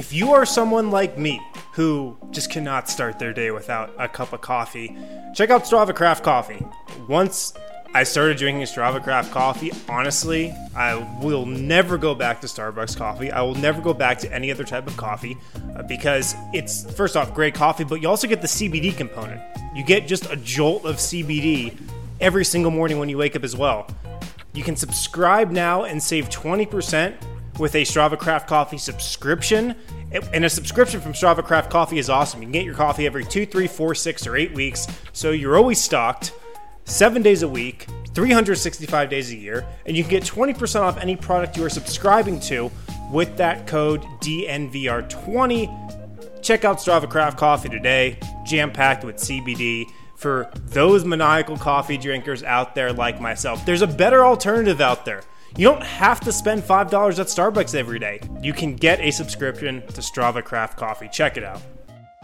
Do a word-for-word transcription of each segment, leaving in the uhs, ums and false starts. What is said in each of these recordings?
If you are someone like me who just cannot start their day without a cup of coffee, check out Strava Craft Coffee. Once I started drinking Strava Craft Coffee, honestly, I will never go back to Starbucks coffee. I will never go back to any other type of coffee uh, because it's, first off, great coffee, but you also get the C B D component. You get just a jolt of C B D every single morning when you wake up as well. You can subscribe now and save twenty percent with a Strava Craft Coffee subscription. And a subscription from Strava Craft Coffee is awesome. You can get your coffee every two, three, four, six, or eight weeks. So you're always stocked, seven days a week, three hundred sixty-five days a year. And you can get twenty percent off any product you are subscribing to with that code D N V R twenty. Check out Strava Craft Coffee today, jam-packed with C B D. For those maniacal coffee drinkers out there like myself, there's a better alternative out there. You don't have to spend five dollars at Starbucks every day. You can get a subscription to Strava Craft Coffee. Check it out.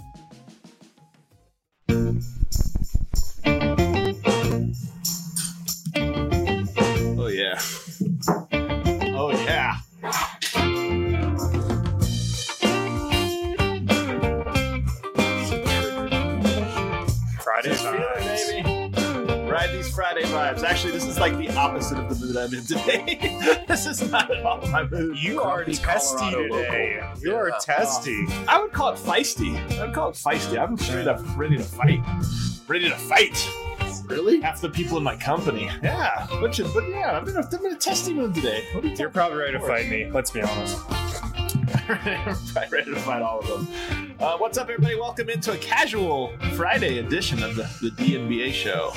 Oh, yeah. Oh, yeah. Friday vibes. Ride these Friday vibes. Actually, this is like the opposite of the mood I'm in today. This is not at all my mood. You are testy Colorado today. local. You are Yeah. testy. Uh, I would call it feisty. I would call it feisty. I'm straight up ready to fight. Ready to fight. Really? Half the people in my company. Yeah. But, you, but yeah, I'm in, a, I'm in a testy mood today. What are you You're probably ready to fight me. Let's be honest. I'm ready to fight all of them. Uh, what's up, everybody? Welcome into a casual Friday edition of the, the D N B A show.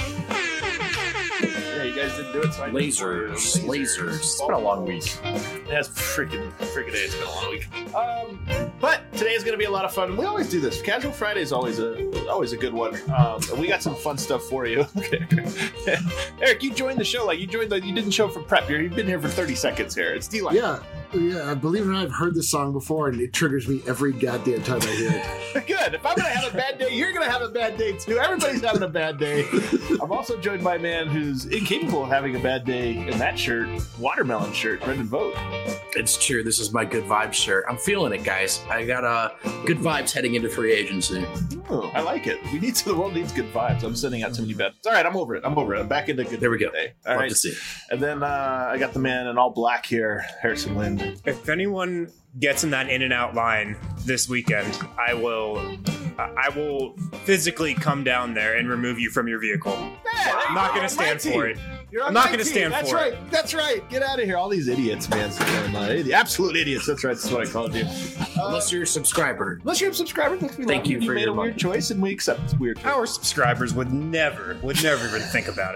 Yeah, you guys didn't do it, so I Lasers, lasers. It's been a long week. That's freaking, freaking day. It's been a long week. Um, but today is going to be a lot of fun. We always do this. Casual Friday is always a always a good one. Um, we got some fun stuff for you. Okay. Eric, you joined the show. Like you joined the. You didn't show up for prep. You're, you've been here for thirty seconds here. It's D-Line. Yeah. Yeah, I believe it or not, I've heard this song before, and it triggers me every goddamn time I hear it. Good. If I'm going to have a bad day, you're going to have a bad day too. Everybody's having a bad day. I'm also joined by a man who's incapable of having a bad day in that shirt, watermelon shirt, Brendan Vogt. It's true. This is my good vibes shirt. I'm feeling it, guys. I got uh, good vibes heading into free agency. Oh, I like it. We need to. The world needs good vibes. I'm sending out too many bad. It's all right. I'm over it. I'm over it. I'm back into good. There we go. Day. All Love right. to see. And then uh, I got the man in all black here, Harrison Lind. If anyone gets in that in and out line this weekend, I will uh, I will physically come down there and remove you from your vehicle. Yeah, I'm not going to stand for it. You're on I'm not my gonna team. stand That's for right. it. That's right. Get out of here. All these idiots, man. Uh, idi- absolute idiots. That's right. That's what I called you. Uh, Unless you're a subscriber. unless you're a subscriber, we Thank love you for made your a money. weird choice, and we accept weird choice. Our subscribers would never, would never even think about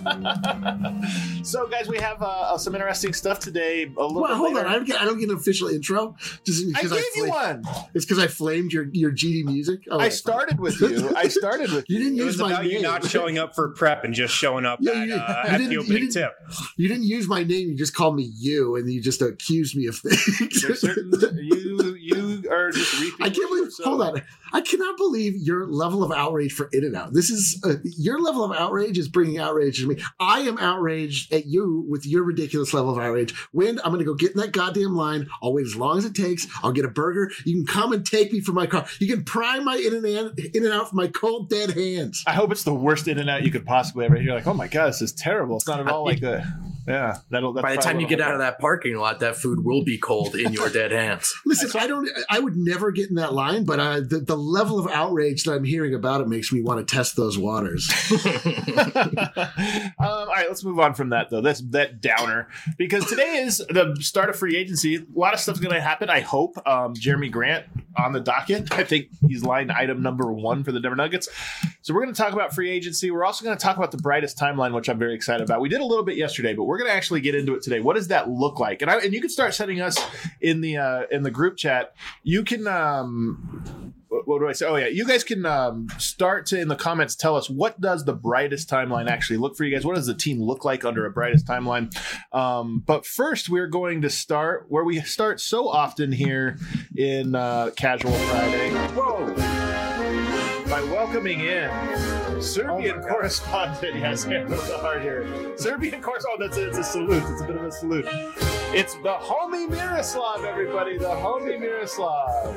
it. So, guys, we have uh, some interesting stuff today. A little Well, bit hold later. on. I don't, get, I don't get an official intro. Just I because gave you flamed, one. It's because I flamed your, your G D music. Oh, I started with you. I started with You didn't It use was my about name. you not showing up for prep and just showing up Yeah, at, you- uh, you at didn't- the you opening didn't- tip. You didn't use my name. You just called me you, and you just accused me of things. There's certain you you are just repeating. I can't believe. so- Hold on. I cannot believe your level of outrage for In and Out. This is uh, your level of outrage is bringing outrage to me. I am outraged at you with your ridiculous level of outrage. Wind, I'm going to go get in that goddamn line. I'll wait as long as it takes. I'll get a burger. You can come and take me from my car. You can pry my In and Out, in and out from my cold dead hands. I hope it's the worst in and out you could possibly ever. You're like, oh my god, this is terrible. It's not at all like that. Yeah, that'll. That's By the time probably you get what out of that parking lot, that food will be cold in your dead hands. Listen, I don't. I would never get in that line, but uh, the the level of outrage that I'm hearing about it makes me want to test those waters. um, all right, let's move on from that though. That's that downer because today is the start of free agency. A lot of stuff's going to happen. I hope. Um, Jeremy Grant on the docket. I think he's line item number one for the Denver Nuggets. So we're going to talk about free agency. We're also going to talk about the brightest timeline, which I'm very excited about. We did a little bit yesterday, but we're going to actually get into it today. What does that look like? And I, and you can start sending us in the uh, in the group chat. You can. Um, what, what do I say? Oh yeah, you guys can um, start to in the comments tell us what does the brightest timeline actually look for you guys. What does the team look like under a brightest timeline? Um, but first, we're going to start where we start so often here in uh, Casual Friday. Whoa. By welcoming in Serbian Oh correspondent, yes, with the heart here. Serbian correspondent. Oh, that's a, it's a salute. It's a bit of a salute. It's the homie Miroslav, everybody. The homie Miroslav.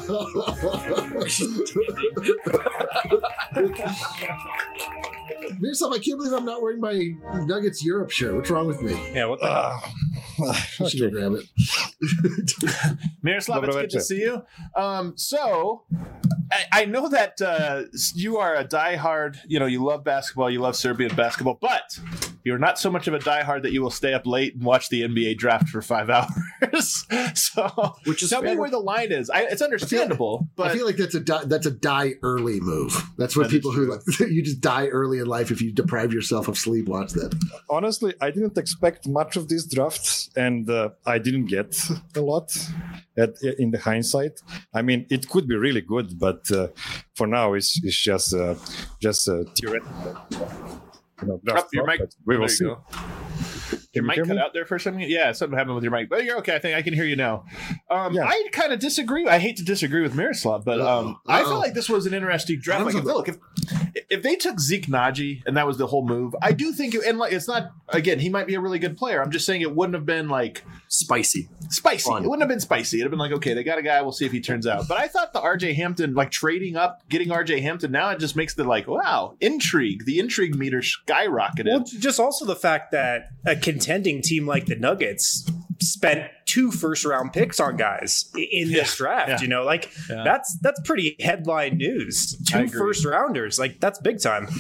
Miroslav, I can't believe I'm not wearing my Nuggets Europe shirt. What's wrong with me? Yeah, what the Uh, I should go grab it. Miroslav, Dobro it's good to večer. see you. Um, so, I, I know that uh, you are a diehard, you know, you love basketball, you love Serbian basketball, but you're not so much of a diehard that you will stay up late and watch the N B A draft for five hours. So, Which is tell me fair. where the line is. I, it's understandable, but I feel like that's a die, that's a die early move. That's what That is people who like, you just die early in life if you deprive yourself of sleep. Watch that. honestly, I didn't expect much of these drafts, and uh, I didn't get a lot at, in the hindsight. I mean, it could be really good, but uh, for now, it's it's just uh, just uh, theoretical. You know, draft Up your mic. prospects. We will There you see. go. Can Your you mic hear cut me? out there for some yeah something happened with your mic, but you're okay. I think I can hear you now. um Yeah. I kind of disagree. I hate to disagree with Miroslav, but um I Uh-oh. feel like this was an interesting draft. Like, if, look, if if they took Zeke Naji and that was the whole move, I do think it, and like it's not, again, he might be a really good player. I'm just saying it wouldn't have been like Spicy. spicy. Fun. It wouldn't have been spicy. It'd have been like, okay, they got a guy, we'll see if he turns out. But I thought the R J Hampton, like trading up, getting R J Hampton, now it just makes the like, wow, intrigue. The intrigue meter skyrocketed. Well, just also the fact that a contending team like the Nuggets spent two first round picks on guys i- in this draft. yeah. You know, like Yeah. that's that's pretty headline news. I Two agree. first rounders, like that's big time.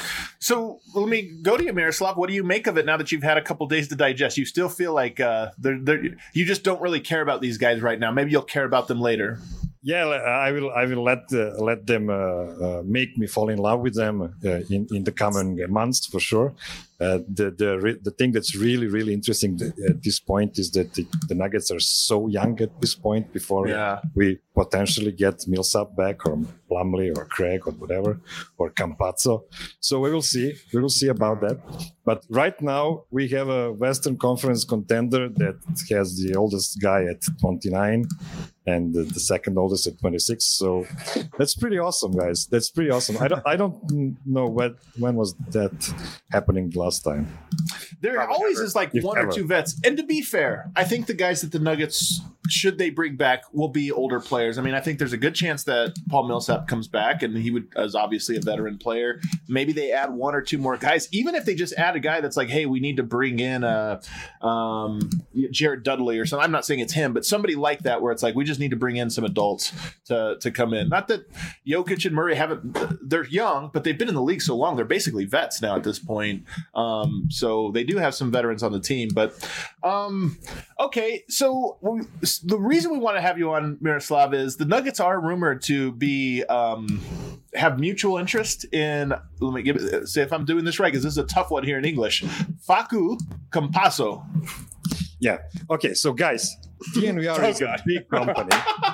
So let me go to you, Miroslav. What do you make of it now that you've had a couple days to digest? You still feel like uh, they're, they're, you just don't really care about these guys right now. Maybe you'll care about them later. Yeah, I will. I will let uh, let them uh, uh, make me fall in love with them uh, in in the coming months for sure. Uh, the the re- the thing that's really really interesting th- at this point is that the, the Nuggets are so young at this point. Before Yeah. we potentially get Millsap back, or Plumlee, or Craig, or whatever, or Campazzo. So we will see. We will see about that. But right now we have a Western Conference contender that has the oldest guy at twenty-nine. And the, the second oldest at twenty-six. So that's pretty awesome, guys. That's pretty awesome. I don't, I don't know when, when was that happening last time. There Probably always never. is like If one or ever. two vets. And to be fair, I think the guys that the Nuggets, should they bring back, will be older players. I mean, I think there's a good chance that Paul Millsap comes back, and he would, as obviously a veteran player. Maybe they add one or two more guys. Even if they just add a guy that's like, hey, we need to bring in a um, Jared Dudley or something. I'm not saying it's him, but somebody like that where it's like, we just need to bring in some adults to to come in. Not that Jokic and Murray haven't, they're young, but they've been in the league so long. They're basically vets now at this point. Um, so they do have some veterans on the team. But um, okay, so we, the reason we want to have you on, Miroslav, is the Nuggets are rumored to be um, have mutual interest in, let me give it, say if I'm doing this right, because this is a tough one here in English, Facu Campazzo. Yeah. Okay. So guys, T N V R Oh, is a God. big company.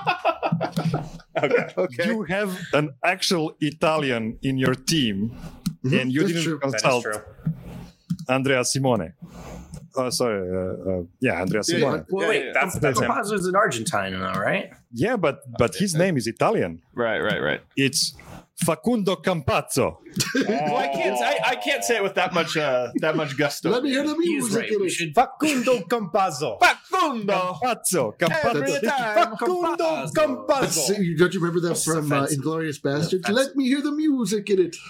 Okay. Okay. You have an actual Italian in your team, and you That's didn't true. That is consult true. Andrea Simone. Oh, sorry. Uh, uh, yeah, Andrea Yeah, Simone. Well, Yeah, wait, yeah. That's that's him. Campazzo's an Argentine now, right? Yeah, but but his name is Italian. Right, right, right. It's Facundo Campazzo. Well, I can't. I, I can't say it with that much. Uh, that much gusto. Let me hear the He is music right. in We it. should Facundo Campazzo. Facundo. Campazzo. Every Campazzo. time. Facundo That's- Campazzo. Don't you remember that That's from uh, offensive. Inglorious Bastards? That's- Let me hear the music in it.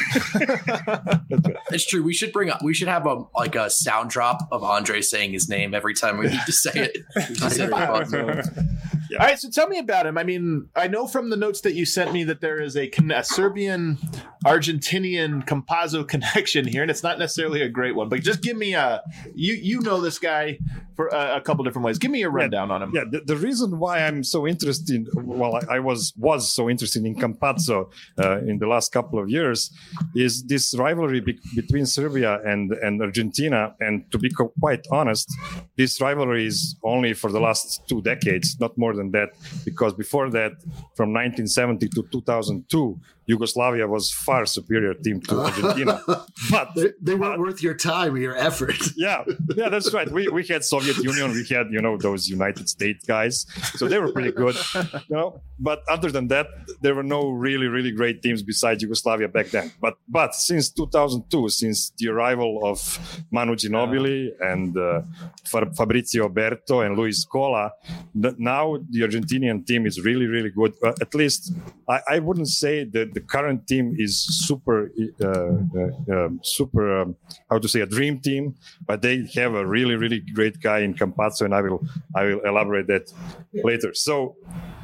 It's true. We should bring up. We should have a like a sound drop of Andre saying his name every time we need to say it. We should say Campazzo. All right, so tell me about him. I mean, I know from the notes that you sent me that there is a, con- a Serbian Argentinian Campazzo connection here, and it's not necessarily a great one. But just give me a you you know this guy for a, a couple different ways. Give me a rundown on him. Yeah, the, the reason why I'm so interested, well, I, I was was so interested in Campazzo uh, in the last couple of years, is this rivalry be- between Serbia and, and Argentina. And to be co- quite honest, this rivalry is only for the last two decades, not more than that, because before that, from nineteen seventy to two thousand two, Yugoslavia was far superior team to Argentina. But they, they weren't but, worth your time or your effort. yeah, yeah, that's right. We we had Soviet Union, we had you know those United States guys, so they were pretty good, you know. But other than that, there were no really really great teams besides Yugoslavia back then. But but since two thousand two, since the arrival of Manu Ginobili and uh, Fabrizio Berto and Luis Scola, the, now the Argentinian team is really really good. Uh, at least I, I wouldn't say that the current team is super uh, uh, uh, super um, how to say a dream team, but they have a really really great guy in Campazzo, and I will I will elaborate that later. So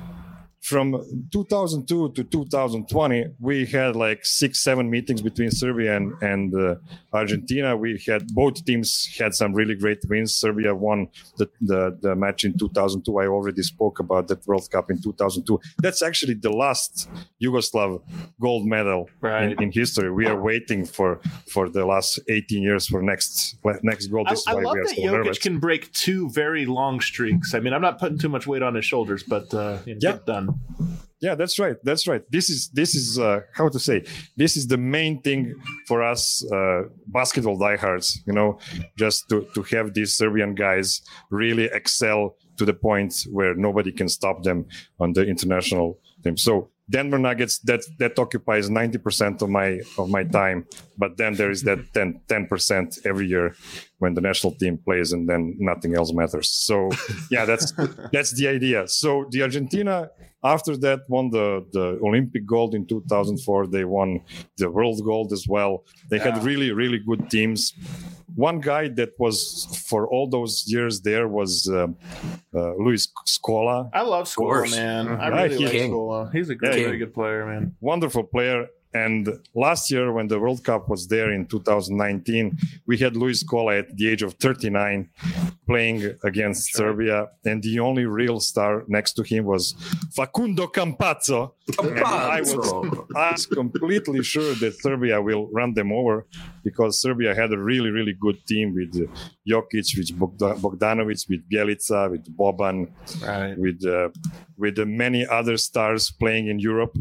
from two thousand two to two thousand twenty, we had like six, seven meetings between Serbia and, and uh, Argentina. We had both teams had some really great wins. Serbia won the, the, the match in two thousand two. I already spoke about that World Cup in two thousand two. That's actually the last Yugoslav gold medal right. in, in history. We are waiting for, for the last eighteen years for next next gold. This I, is I why love we are that so Jokic nervous. can break two very long streaks. I mean, I'm not putting too much weight on his shoulders, but uh, you know, Yeah. get done. Yeah, that's right. That's right. This is this is uh, how to say. This is the main thing for us uh, basketball diehards. You know, just to to have these Serbian guys really excel to the point where nobody can stop them on the international team. So Denver Nuggets, that that occupies ninety percent of my of my time, but then there is that ten percent every year when the national team plays, and then nothing else matters. So yeah, that's that's the idea. So the Argentina after that won the the Olympic gold in two thousand four. They won the world gold as well. They Yeah. had really really good teams. One guy that was for all those years there was uh, uh, Luis Scola. I love Scola, course. man. I Yeah, really he's like king. Scola. He's a great, Yeah, very good player, man. Wonderful player. And last year, when the World Cup was there in two thousand nineteen, we had Luis Scola at the age of thirty-nine playing against Serbia. And the only real star next to him was Facundo Campazzo. And I was, I was completely sure that Serbia will run them over because Serbia had a really, really good team with uh, Jokic, with Bogda- Bogdanovic, with Bjelica, with Boban, Right. with uh, with uh, many other stars playing in Europe.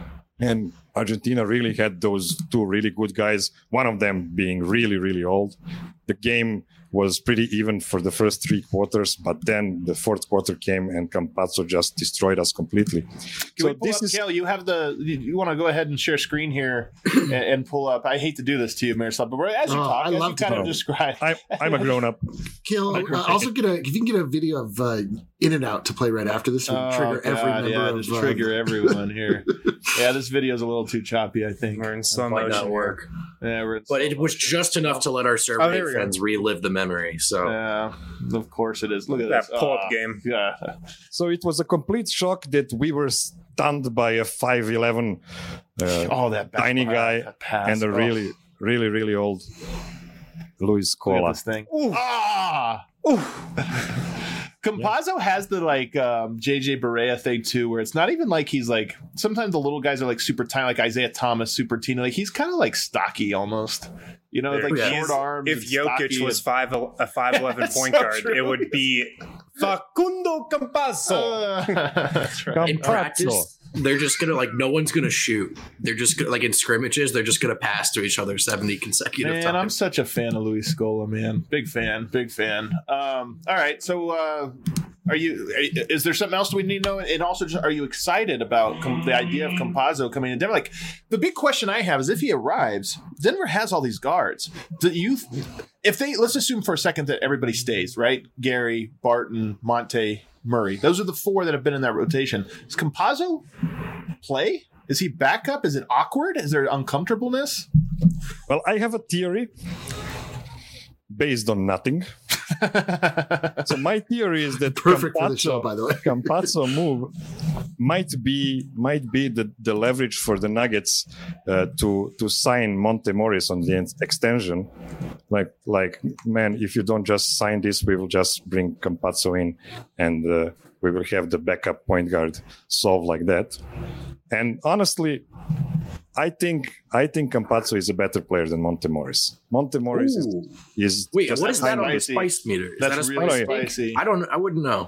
And Argentina really had those two really good guys, one of them being really, really old. The game was pretty even for the first three quarters, but then the fourth quarter came and Campazzo just destroyed us completely. Can so we pull this up, is Kale, you have the, you, you want to go ahead and share screen here and, and pull up. I hate to do this to you, Miroslav, but we're- as you Oh, talk, I as you love to kind of talk. describe. I, I'm a grown up. Kill. Uh, also, get a if you can get a video of uh, In and Out to play right after this, would Oh, trigger every God, member yeah, of just uh, trigger everyone here. Yeah, this video is a little too choppy, I think. We're in slow Might motion. not work. Yeah, we're in But slow it was motion. just enough to let our Oh, Serbian there we go. fans relive the memory. So Yeah, of course it is. Look at That this. pull-up Ah, game. Yeah. So it was a complete shock that we were stunned by a five eleven uh, Oh, that back tiny pass, guy that pass. and a Oh, really, really, really old Luis look at Scola. this thing. Ooh. Ah. Campazzo has the like um, J J Barea thing too, where it's not even like he's like. Sometimes the little guys are like super tiny, like Isaiah Thomas, super teeny. Like he's kind of like stocky almost. You know, like Yeah. short He's- arms. If and Jokic stocky was and- five a five eleven That's point so guard, true. it would be Facundo Campazzo. Uh, that's right. in Campazzo. practice, they're just gonna like no one's gonna shoot. They're just gonna, like in scrimmages, they're just gonna pass to each other seventy consecutive Man, times. I'm such a fan of Luis Scola, man. Big fan, big fan. Um, all right, so uh, are you? Is there something else we need to know? And also, just, are you excited about com- the idea of Campazzo coming in Denver? Like, the big question I have is if he arrives, Denver has all these guards. Do you? If they let's assume for a second that everybody stays, right? Gary, Barton, Monte, Murray. Those are the four that have been in that rotation. Does Campazzo play? Is he backup? Is it awkward? Is there uncomfortableness? Well, I have a theory based on nothing. So my theory is that perfect for the Campazzo- show, by the way. Campazzo move might be might be the, the leverage for the Nuggets uh, to to sign Monte Morris on the ex- extension. Like like man, if you don't just sign this, we will just bring Campazzo in, and uh, we will have the backup point guard solved like that. And honestly, I think I think Campazzo is a better player than Monte Morris. Monte Morris is, Ooh. is Wait, just what is a that tiny on the spicy. spice meter? Is That's that a really spice? spicy. I don't. I wouldn't know.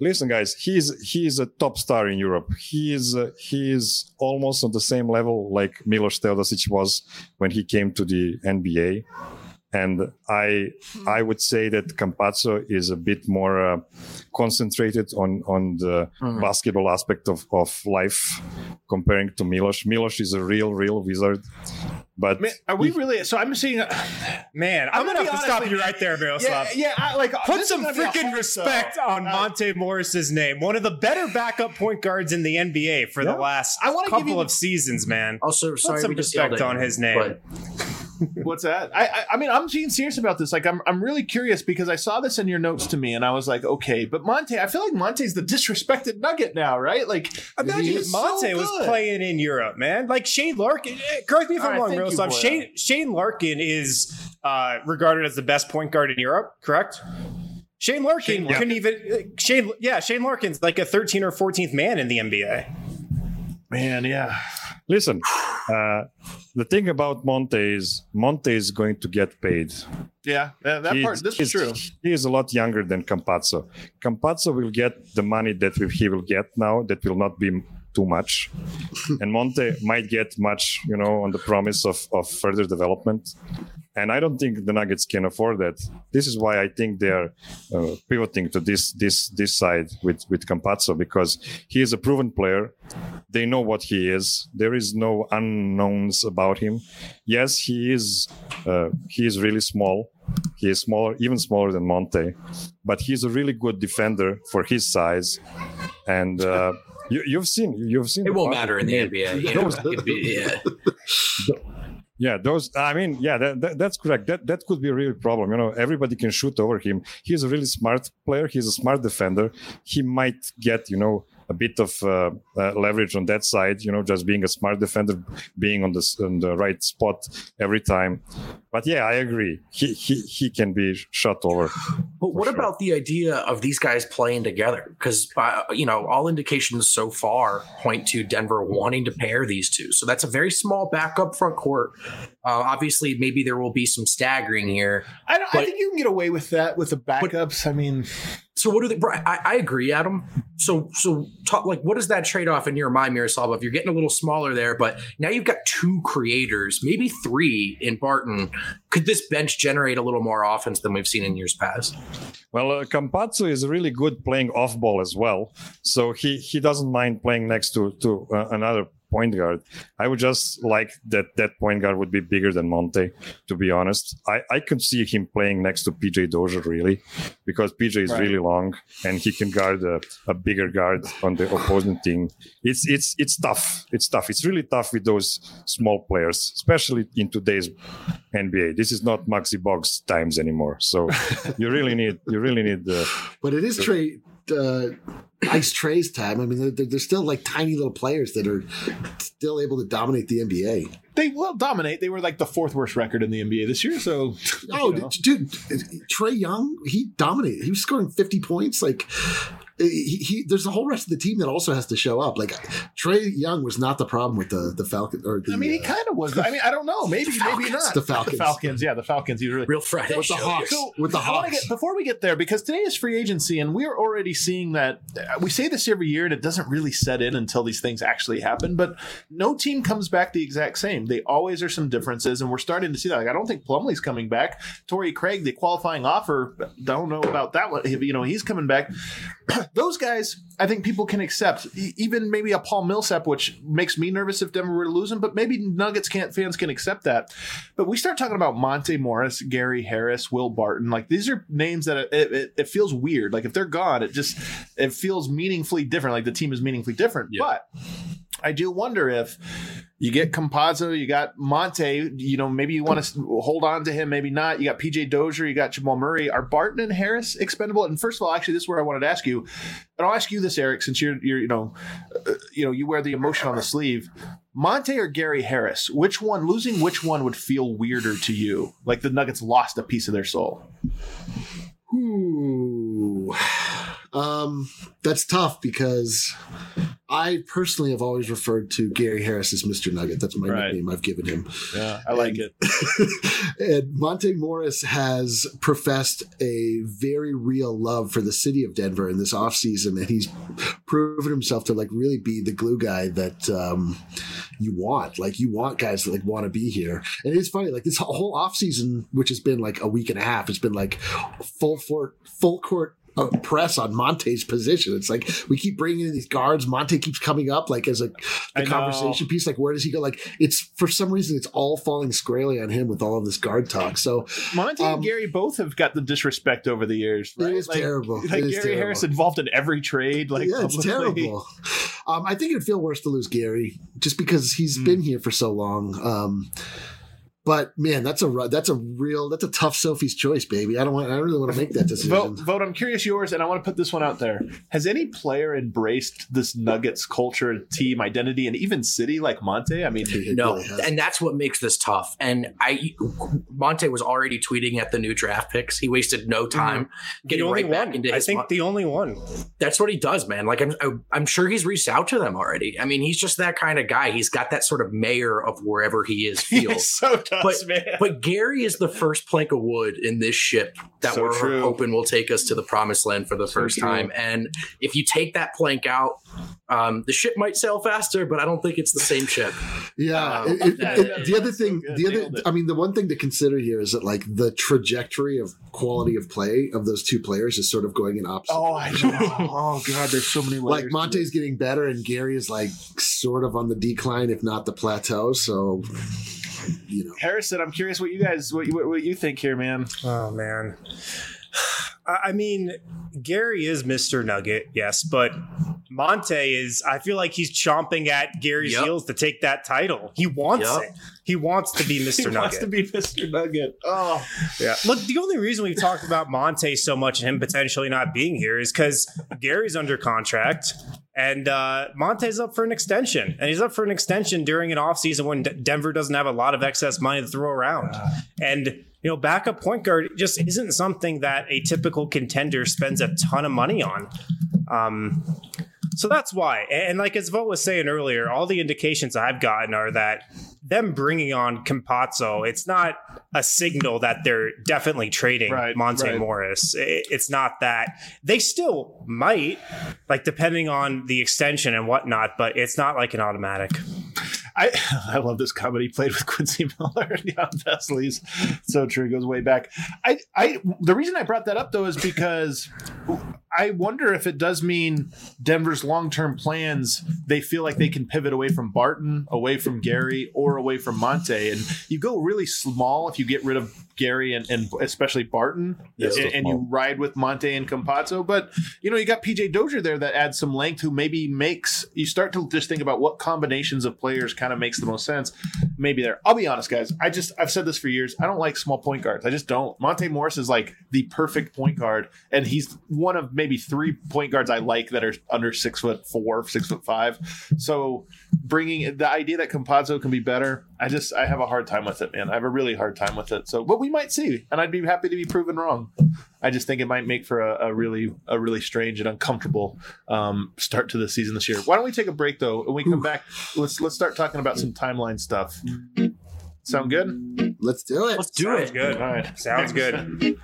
listen, guys, he's he's a top star in Europe. He is uh, he is almost on the same level like Milos Teodosic was when he came to the N B A. And I I would say that Campazzo is a bit more uh, concentrated on, on the mm-hmm. basketball aspect of, of life comparing to Milos. Milos is a real, real wizard. But man, are we really? So I'm seeing. Uh, man, I'm, I'm gonna, gonna have to stop you right there, Miroslav. Yeah, yeah. I, like put some freaking respect though. on uh, Monte Morris's name. One of the better backup point guards in the N B A for yeah. the last I couple give you of the, seasons, man. Also, put sorry, some we just respect on his name. But. What's that? I, I I mean, I'm being serious about this. Like, I'm I'm really curious because I saw this in your notes to me, and I was like, okay, but Monte, I feel like Monte's the disrespected Nugget now, right? Like, imagine Monte so was playing in Europe, man. Like Shane Larkin. Correct me if I'm wrong, Miroslav. Shane Shane Larkin is uh, regarded as the best point guard in Europe. Correct. Shane Larkin Shane, couldn't yeah. even Shane. Yeah, Shane Larkin's like a thirteenth or fourteenth man in the N B A. Man, yeah. Listen, uh, the thing about Monte is Monte is going to get paid. Yeah, that he's, part, this is true. He is a lot younger than Campazzo. Campazzo will get the money that he will get now. That will not be too much. And Monte might get much, you know, on the promise of, of further development. And I don't think the Nuggets can afford that. This is why I think they're uh, pivoting to this this this side with, with Campazzo, because he is a proven player. They know what he is. There is no unknowns about him. Yes, he is uh, he is really small. He is smaller, even smaller than Monte. But he's a really good defender for his size. And uh, you, you've seen you've seen. It won't matter in the N B A. You know, yeah. Yeah, those. I mean, yeah, that, that, that's correct. That that could be a real problem. You know, everybody can shoot over him. He's a really smart player. He's a smart defender. He might get, you know, a bit of uh, uh, leverage on that side. You know, just being a smart defender, being on the on the right spot every time. But yeah, I agree. He he he can be shot over. But what sure. about the idea of these guys playing together? Because you know, all indications so far point to Denver wanting to pair these two. So that's a very small backup front court. Uh, obviously, maybe there will be some staggering here. I, don't, but, I think you can get away with that with the backups. But, I mean, so what do they? I, I agree, Adam. So so talk, like, what is that trade off in your mind, Miroslav? If you're getting a little smaller there, but now you've got two creators, maybe three in Barton. Could this bench generate a little more offense than we've seen in years past? Well, uh, Campazzo is really good playing off ball as well, so he he doesn't mind playing next to to uh, another point guard. I would just like that that point guard would be bigger than Monte, to be honest. I, I could see him playing next to P J Dozier, really, because P J is right. really long and he can guard a, a bigger guard on the opposing team. It's it's it's tough. It's tough. It's really tough with those small players, especially in today's N B A. This is not Maxi Boggs times anymore. So you really need you really need the. But it is the, trade. Uh, Ice Trey's time. I mean, they're, they're still like tiny little players that are still able to dominate the N B A. They will dominate. They were like the fourth worst record in the N B A this year. So, oh, you know. dude, Trae Young, he dominated. He was scoring fifty points. Like, he, he, there's a whole rest of the team that also has to show up. Like, Trae Young was not the problem with the the Falcons. Or the, I mean, he uh, kind of was. I mean, I don't know. Maybe, maybe not. The Falcons. The Falcons. Yeah, the Falcons. He was really real Friday with the Hawks. So, with the Hawks. Get, before we get there, because today is free agency, and we're already seeing that. We say this every year, and it doesn't really set in until these things actually happen. But no team comes back the exact same. They always are some differences, and we're starting to see that. Like, I don't think Plumlee's coming back. Torrey Craig, the qualifying offer, don't know about that one. You know, he's coming back. Those guys, I think people can accept. Even maybe a Paul Millsap, which makes me nervous if Denver were to lose him, but maybe Nuggets can't fans can accept that. But we start talking about Monte Morris, Gary Harris, Will Barton. Like, these are names that it, it, it feels weird. Like, if they're gone, it just it feels meaningfully different. Like, the team is meaningfully different. Yeah. But I do wonder if you get Campazzo, you got Monte, you know, maybe you want to hold on to him, maybe not. You got P J Dozier, you got Jamal Murray. Are Barton and Harris expendable? And first of all, actually, this is where I wanted to ask you, and I'll ask you this, Eric, since you're, you're you know, uh, you know, you wear the emotion on the sleeve. Monte or Gary Harris, which one, losing which one would feel weirder to you? Like the Nuggets lost a piece of their soul. Ooh. Um, that's tough because I personally have always referred to Gary Harris as Mister Nugget. That's my Right. nickname I've given him. Yeah, I like it. And Monte Morris has professed a very real love for the city of Denver in this offseason, and he's proven himself to like really be the glue guy that um, you want. Like you want guys that like want to be here. And it's funny, like this whole offseason, which has been like a week and a half, it's been like full for full court uh, press on Monte's position. It's like we keep bringing in these guards. Monte keeps coming up like as a the I know. conversation piece. Like where does he go? Like it's for some reason it's all falling squarely on him with all of this guard talk. So Monte Um, and Gary both have got the disrespect over the years. Right? It is like, terrible. Like It is Gary terrible. Harris involved in every trade. Like yeah, it's publicly. terrible. Um, I think it'd feel worse to lose Gary just because he's Mm. been here for so long. Um, but man, that's a ru- that's a real that's a tough Sophie's choice, baby. I don't want I don't really want to make that decision. Vote, vote. I'm curious yours, and I want to put this one out there. Has any player embraced this Nuggets culture, team identity, and even city like Monte? I mean, It No, really has. and that's what makes this tough. And I, Monte was already tweeting at the new draft picks. He wasted no time The getting only right back one. into I his. think the only one. That's what he does, man. Like I'm, I'm sure he's reached out to them already. I mean, he's just that kind of guy. He's got that sort of mayor of wherever he is feel. he so does, But, man. but Gary is the first plank of wood in this ship that So we're true. hoping will take us to the promised land for the So first true. time. And if you take that plank out, um, the ship might sail faster, but I don't think it's the same ship. Yeah, Um, it- it- that- it- the other that's so thing, good. the other, Nailed it. I mean, the one thing to consider here is that like the trajectory of quality of play of those two players is sort of going in opposite. Oh, I know. Oh, God, there's so many layers. like to Monte's getting better, and Gary is like sort of on the decline, if not the plateau. So, you know, it. Harrison, I'm curious what you guys, what you, what you think here, man. Oh man. I I mean, Gary is Mister Nugget, yes, but Monte is, I feel like he's chomping at Gary's Yep. heels to take that title. He wants Yep. it. He wants to be Mister He Nugget. wants to be Mister Nugget. Oh, Yeah. Look, the only reason we've talked about Monte so much and him potentially not being here is because Gary's under contract and uh, Monte's up for an extension. And he's up for an extension during an offseason when D- Denver doesn't have a lot of excess money to throw around. And, you know, backup point guard just isn't something that a typical contender spends a ton of money on. Um, so that's why. And like as Vo was saying earlier, all the indications I've gotten are that them bringing on Campazzo, it's not a signal that they're definitely trading Right, Monte right. Morris. It- It's not that. They still might, like depending on the extension and whatnot, but it's not like an automatic. I I love this comedy. Played with Quincy Miller and Jan Vesely's. So true. It goes way back. I, I the reason I brought that up though is because I wonder if it does mean Denver's long-term plans, they feel like they can pivot away from Barton, away from Gary, or away from Monte. And you go really small if you get rid of Gary and, and especially Barton, Yeah, and, so and you small. ride with Monte and Campazzo. But, you know, you got P J Dozier there that adds some length, who maybe makes, you start to just think about what combinations of players kind of makes the most sense. Maybe there. I'll be honest, guys. I just, I've said this for years. I don't like small point guards. I just don't. Monte Morris is like the perfect point guard, and he's one of maybe three point guards I like that are under six foot four, six foot five. So bringing the idea that Campazzo can be better, I just, I have a hard time with it, man. I have a really hard time with it. So, but we might see, and I'd be happy to be proven wrong. I just think it might make for a, a really, a really strange and uncomfortable um, start to the season this year. Why don't we take a break though? When we come back, let's let's start talking about some timeline stuff. Sound good? let's do it. Let's do Sounds it. good. All right. Sounds good.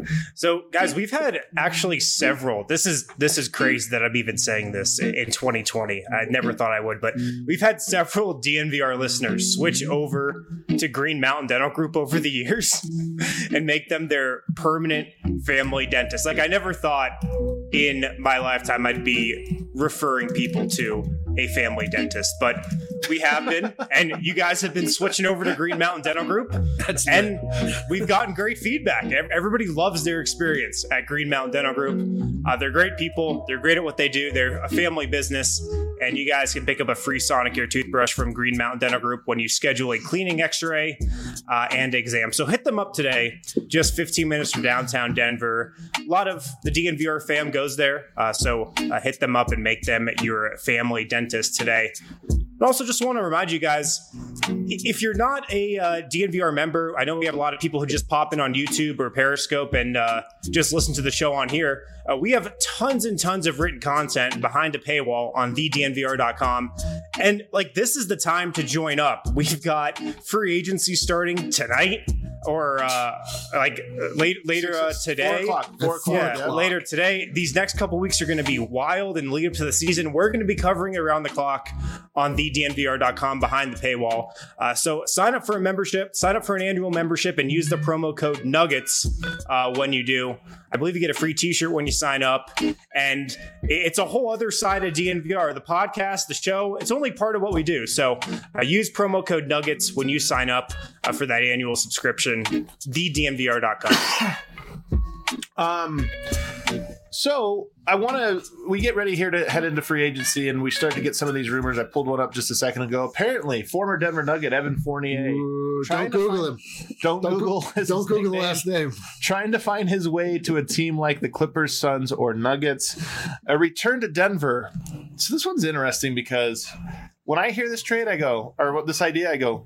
So, guys, we've had actually several. This is this is crazy that I'm even saying this in twenty twenty. I never thought I would, but we've had several D N V R listeners switch over to Green Mountain Dental Group over the years and make them their permanent family dentist. Like I never thought in my lifetime I'd be referring people to a family dentist, but we have been, and you guys have been switching over to Green Mountain Dental Group. That's And we've gotten great feedback. Ev- Everybody loves their experience at Green Mountain Dental Group. Uh, they're great people. They're great at what they do. They're a family business. And you guys can pick up a free Sonicare toothbrush from Green Mountain Dental Group when you schedule a cleaning x-ray uh, and exam. So hit them up today, just fifteen minutes from downtown Denver. A lot of the D N V R fam goes there. Uh, so uh, hit them up and make them your family dentist today. And also just want to remind you guys, if you're not a uh, D N V R member, I know we have a lot of people who just pop in on YouTube or Periscope and uh, just listen to the show on here. Uh, we have tons and tons of written content behind a paywall on the D N V R dot com. And like, this is the time to join up. We've got free agency starting tonight. Or uh, like late, later uh, today, Four o'clock. Four o'clock. yeah, yeah. later today. These next couple weeks are going to be wild and lead up to the season. We're going to be covering it around the clock on the D N V R dot com behind the paywall. Uh, so sign up for a membership, sign up for an annual membership, and use the promo code Nuggets uh, when you do. I believe you get a free T-shirt when you sign up, and it's a whole other side of D N V R. The podcast, the show, it's only part of what we do. So uh, use promo code Nuggets when you sign up uh, for that annual subscription. the D N V R dot com. Um, so I want to, we get ready here to head into free agency and we start to get some of these rumors. I pulled one up just a second ago. Apparently, former Denver Nugget Evan Fournier. Ooh, trying don't to Google find- him. Don't, Don't, Google. go- his don't Google the nickname. last name. Trying to find his way to a team like the Clippers, Suns, or Nuggets. A return to Denver. So this one's interesting because when I hear this trade, I go, or what this idea, I go,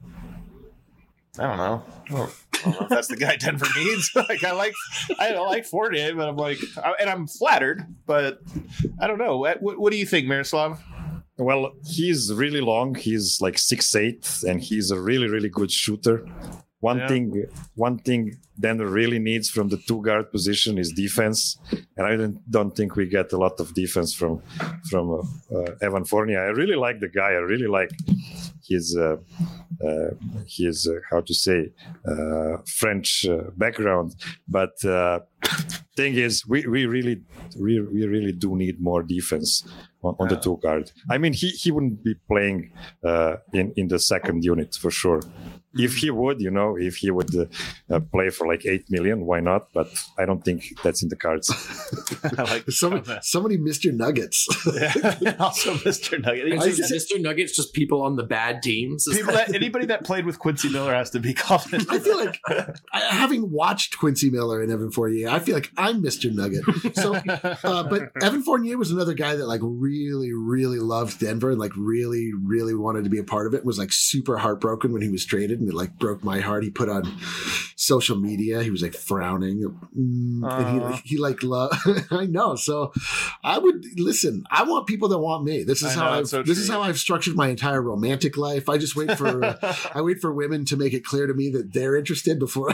I don't know. I don't, I don't know if that's the guy Denver needs. like I like, I don't like Fournier, but I'm like, and I'm flattered, but I don't know. What, what do you think, Miroslav? Well, he's really long. He's like six eight, and he's a really, really good shooter. One Yeah. thing, one thing Denver really needs from the two guard position is defense, and I don't, don't think we get a lot of defense from from uh, uh, Evan Fournier. I really like the guy. I really like his uh, uh, his uh, how to say uh, French uh, background, but. Uh, Thing is, we, we really we, we really do need more defense on, on the two guard. I mean, he, he wouldn't be playing uh, in in the second unit for sure. If he would, you know, if he would uh, uh, play for like eight million, why not? But I don't think that's in the cards. I like Somebody, somebody missed your Nuggets. yeah. Also, Mister Nugget. Is I this just- Mister Nuggets just people on the bad teams? Is People that- that, anybody that played with Quincy Miller has to be called. I feel like, I, having watched Quincy Miller and Evan Fournier, I feel like I'm Mister Nugget. So, uh, but Evan Fournier was another guy that like really, really loved Denver and like really, really wanted to be a part of it. Was like super heartbroken when he was traded, and it like broke my heart. He put on social media, he was like frowning, mm, and he like he like love. I know. So, I would listen. I want people that want me. This is I how know, I've it's so this is true. how I've structured my entire romantic life. I just wait for uh, I wait for women to make it clear to me that they're interested before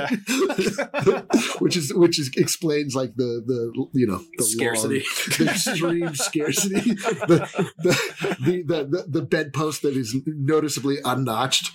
I, which is which is explains like the the you know the Scarcity. long, the extreme scarcity, the the, the the the the bedpost that is noticeably unnotched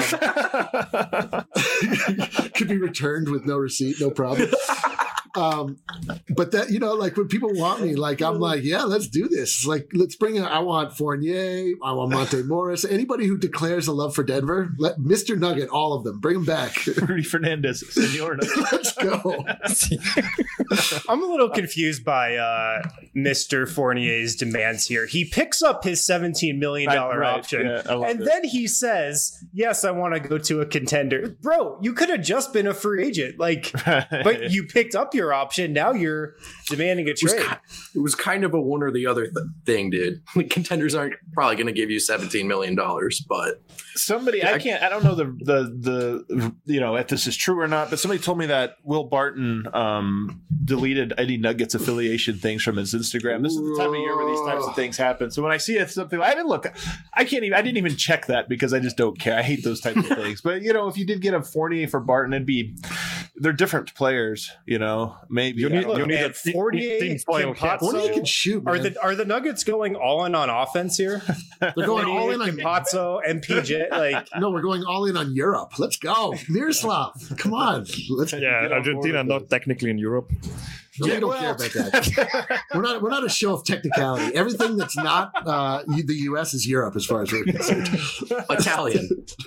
um, could be returned with no receipt, no problem. Um, but that, you know, like when people want me, like I'm like, yeah, let's do this. Like, let's bring in, I want Fournier, I want Monte Morris, anybody who declares a love for Denver, let Mister Nugget, all of them, bring them back. Rudy Fernandez, Senor Nugget. Let's go. I'm a little confused by uh, Mister Fournier's demands here. He picks up his seventeen million dollars Right, option, yeah, I love and it. then he says, yes, I want to go to a contender. Bro, you could have just been a free agent. Like, but you picked up your option. Now you're demanding a It was, trade. ki- it was kind of a one or the other th- thing, dude. Like, contenders aren't probably going to give you seventeen million dollars, but Somebody, I can't, I don't know the, the, the, you know, if this is true or not, but somebody told me that Will Barton um, deleted any Nuggets affiliation things from his Instagram. This is the time of year where these types of things happen. So when I see it, something, I didn't look, I can't even, I didn't even check that because I just don't care. I hate those types of things. But, you know, if you did get a Fournier for Barton, it'd be, they're different players, you know, maybe. You I need, don't you know. need and a team- Fournier, team foil Campazzo- Fournier can shoot, man. Are the are the Nuggets going all in on offense here? They're going all in on Campazzo, M P J, like No, we're going all in on Europe. Let's go. Miroslav, come on. Let's Yeah, Get on Argentina board with not technically in Europe. No, we don't well- care about that. We're not. We're not a show of technicality. Everything that's not uh, the U S is Europe, as far as we're concerned. Italian.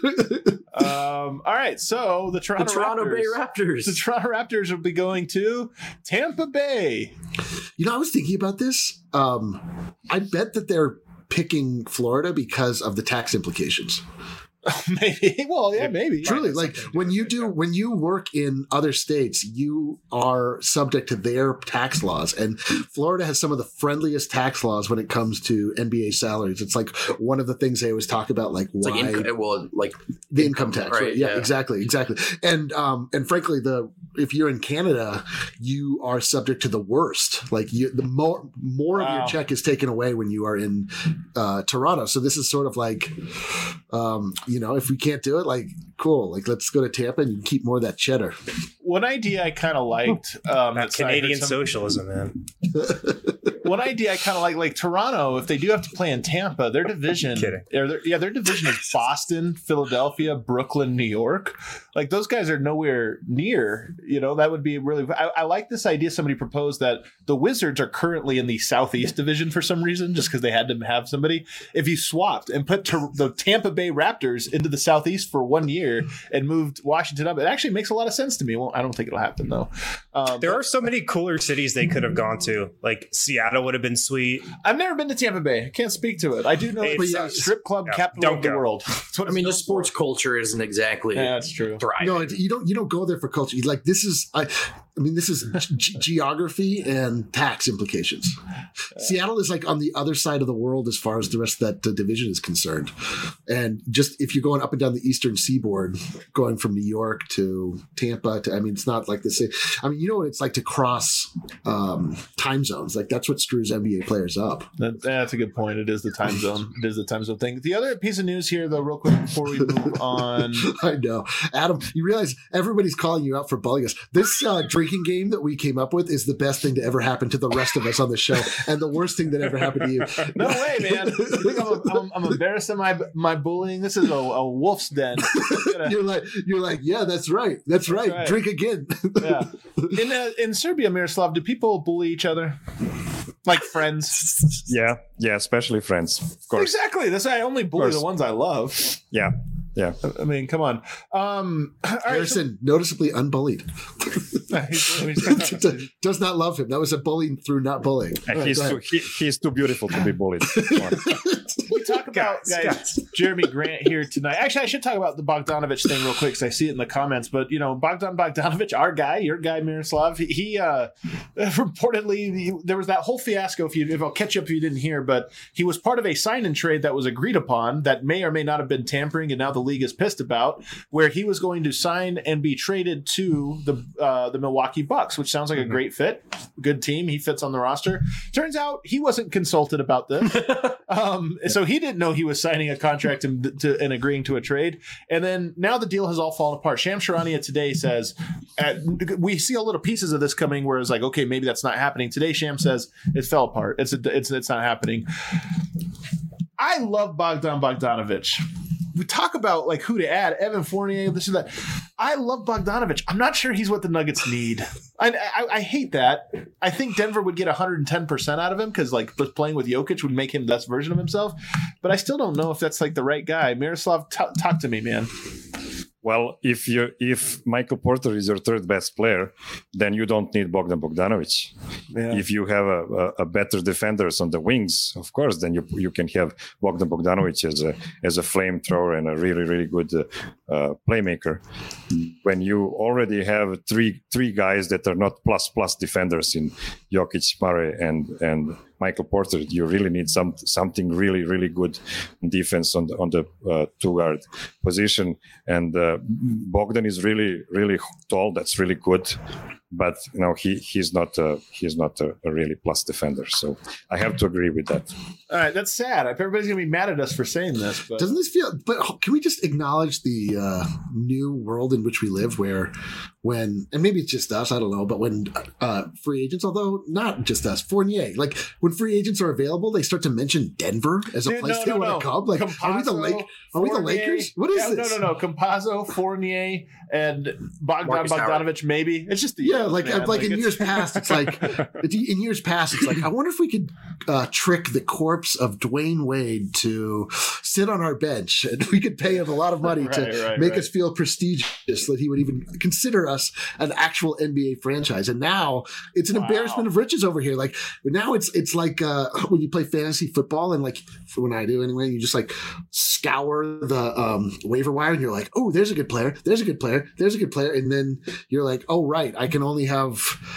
Um, all right. So the The Toronto, Toronto Raptors. Bay Raptors. The Toronto Raptors will be going to Tampa Bay. You know, I was thinking about this. Um, I bet that they're picking Florida because of the tax implications. maybe. Well, yeah, maybe. Truly, like when you do when you work in other states, you are subject to their tax laws, and Florida has some of the friendliest tax laws when it comes to N B A salaries. It's like one of the things they always talk about, like It's why like inco- well, like the income tax, right, right? Yeah, yeah. exactly, exactly. And um, and frankly, the if you're in Canada, you are subject to the worst. Like you, the more more of Wow. your check is taken away when you are in uh, Toronto. So this is sort of like, um, you know, if we can't do it, like cool, like let's go to Tampa and keep more of that cheddar. One idea I kind of liked. Um, That that's- I heard Canadian some- socialism, man. One idea I kind of like, like Toronto, if they do have to play in Tampa, their division, Kidding. or their, yeah, their division is Boston, Philadelphia, Brooklyn, New York. Like those guys are nowhere near. You know, that would be really. I, I like this idea. Somebody proposed that the Wizards are currently in the Southeast Division for some reason, just because they had to have somebody. If you swapped and put to, the Tampa Bay Raptors into the Southeast for one year and moved Washington up, it actually makes a lot of sense to me. Well, I don't think it'll happen though. Um, There are so many cooler cities they could have gone to. Like Seattle would have been sweet. I've never been to Tampa Bay. I can't speak to it. I do know It's- it's a strip club yeah, capital don't of the go. world. That's what I mean, the it's known sports culture isn't exactly for. Yeah, that's true. thriving. No, you don't. You don't go there for culture. Like this is. I. I mean, this is ge- geography and tax implications. Seattle is like on the other side of the world as far as the rest of that uh, division is concerned. And just if you're going up and down the eastern seaboard, going from New York to Tampa, to, I mean, it's not like the same. I mean, you know what it's like to cross um, time zones. Like that's what screws N B A players up. That, that's a good point. It is the time zone. It is the time zone thing. The other piece of news here, though, real quick before we move on. I know. Adam, you realize everybody's calling you out for bullying us. This uh, drinking game that we came up with is the best thing to ever happen to the rest of us on the show, and the worst thing that ever happened to you. No way, man. You think I'm, I'm, I'm embarrassing my my bullying? This is a, a wolf's den. You're like, you're like, yeah, that's right, that's right. right. Drink again. Yeah. In uh, in Serbia, Miroslav, do people bully each other like friends? Yeah, yeah, especially friends, of course. Exactly. That's why I only bully course. the ones I love. Yeah, yeah. I mean, come on. Um, all right, so- Harrison, noticeably unbullied. He's- he's- Does not love him. That was a bullying through not bullying. And All right, he's go too ahead. he, he's too beautiful to be bullied. Come on. we talk about Guys, guys, guys. Jeremy Grant here tonight. Actually, I should talk about the Bogdanovich thing real quick because I see it in the comments. But you know, Bogdan Bogdanovich, our guy, your guy, Miroslav, he, he uh, reportedly he, there was that whole fiasco. If you, if I'll catch you up if you didn't hear, but he was part of a sign and trade that was agreed upon that may or may not have been tampering, and now the league is pissed about, where he was going to sign and be traded to the uh, the Milwaukee Bucks, which sounds like a great fit, good team. He fits on the roster. Turns out he wasn't consulted about this. Um, so he didn't know he was signing a contract and, to, and agreeing to a trade. And then now the deal has all fallen apart. Shams Charania today says, uh, we see a little pieces of this coming where it's like, okay, maybe that's not happening. Today, Sham says it fell apart. It's, a, it's, it's not happening. I love Bogdan Bogdanovich. We talk about like who to add, Evan Fournier, this and that. I love Bogdanovich. I'm not sure he's what the Nuggets need. I, I, I hate that. I think Denver would get one hundred ten percent out of him because like playing with Jokic would make him the best version of himself. But I still don't know if that's like the right guy. Miroslav, t- talk to me, man. Well, if you if Michael Porter is your third best player, then you don't need Bogdan Bogdanovic. Yeah. If you have a, a, a better defenders on the wings, of course, then you you can have Bogdan Bogdanovic as a as a flamethrower and a really really good uh, uh, playmaker. When you already have three three guys that are not plus plus defenders in Jokic, Murray, and and Michael Porter, you really need some something really really good defense on the on the uh, two guard position. And uh, Bogdan is really really tall. That's really good. But you know he he's not a, he's not a, a really plus defender. So I have to agree with that. All right, that's sad. Everybody's gonna be mad at us for saying this, but Doesn't this feel? But can we just acknowledge the uh, new world in which we live, where when, and maybe it's just us, I don't know, but when uh, free agents, although not just us, Fournier, like when free agents are available, they start to mention Denver as a Dude, place no, they no, want no. to come. Like, are we the Campazzo, Lake? Are we the Fournier- Lakers? What is Yeah, this? No, no, no. Campazzo, Fournier, and Bogdan Marcus Howard. Bogdanovich. Maybe it's just the Yeah, like man. like, in it's- years past, it's like in years past, it's like I wonder if we could uh, trick the corpse of Dwayne Wade to sit on our bench, and we could pay him a lot of money to Right, right, make right. us feel prestigious that he would even consider us an actual N B A franchise. And now it's an Wow. embarrassment of riches over here. Like now it's it's like uh, when you play fantasy football and like when I do anyway, you just like scour the um, waiver wire and you're like, oh, there's a good player, there's a good player, there's a good player, and then you're like, oh right, I can only have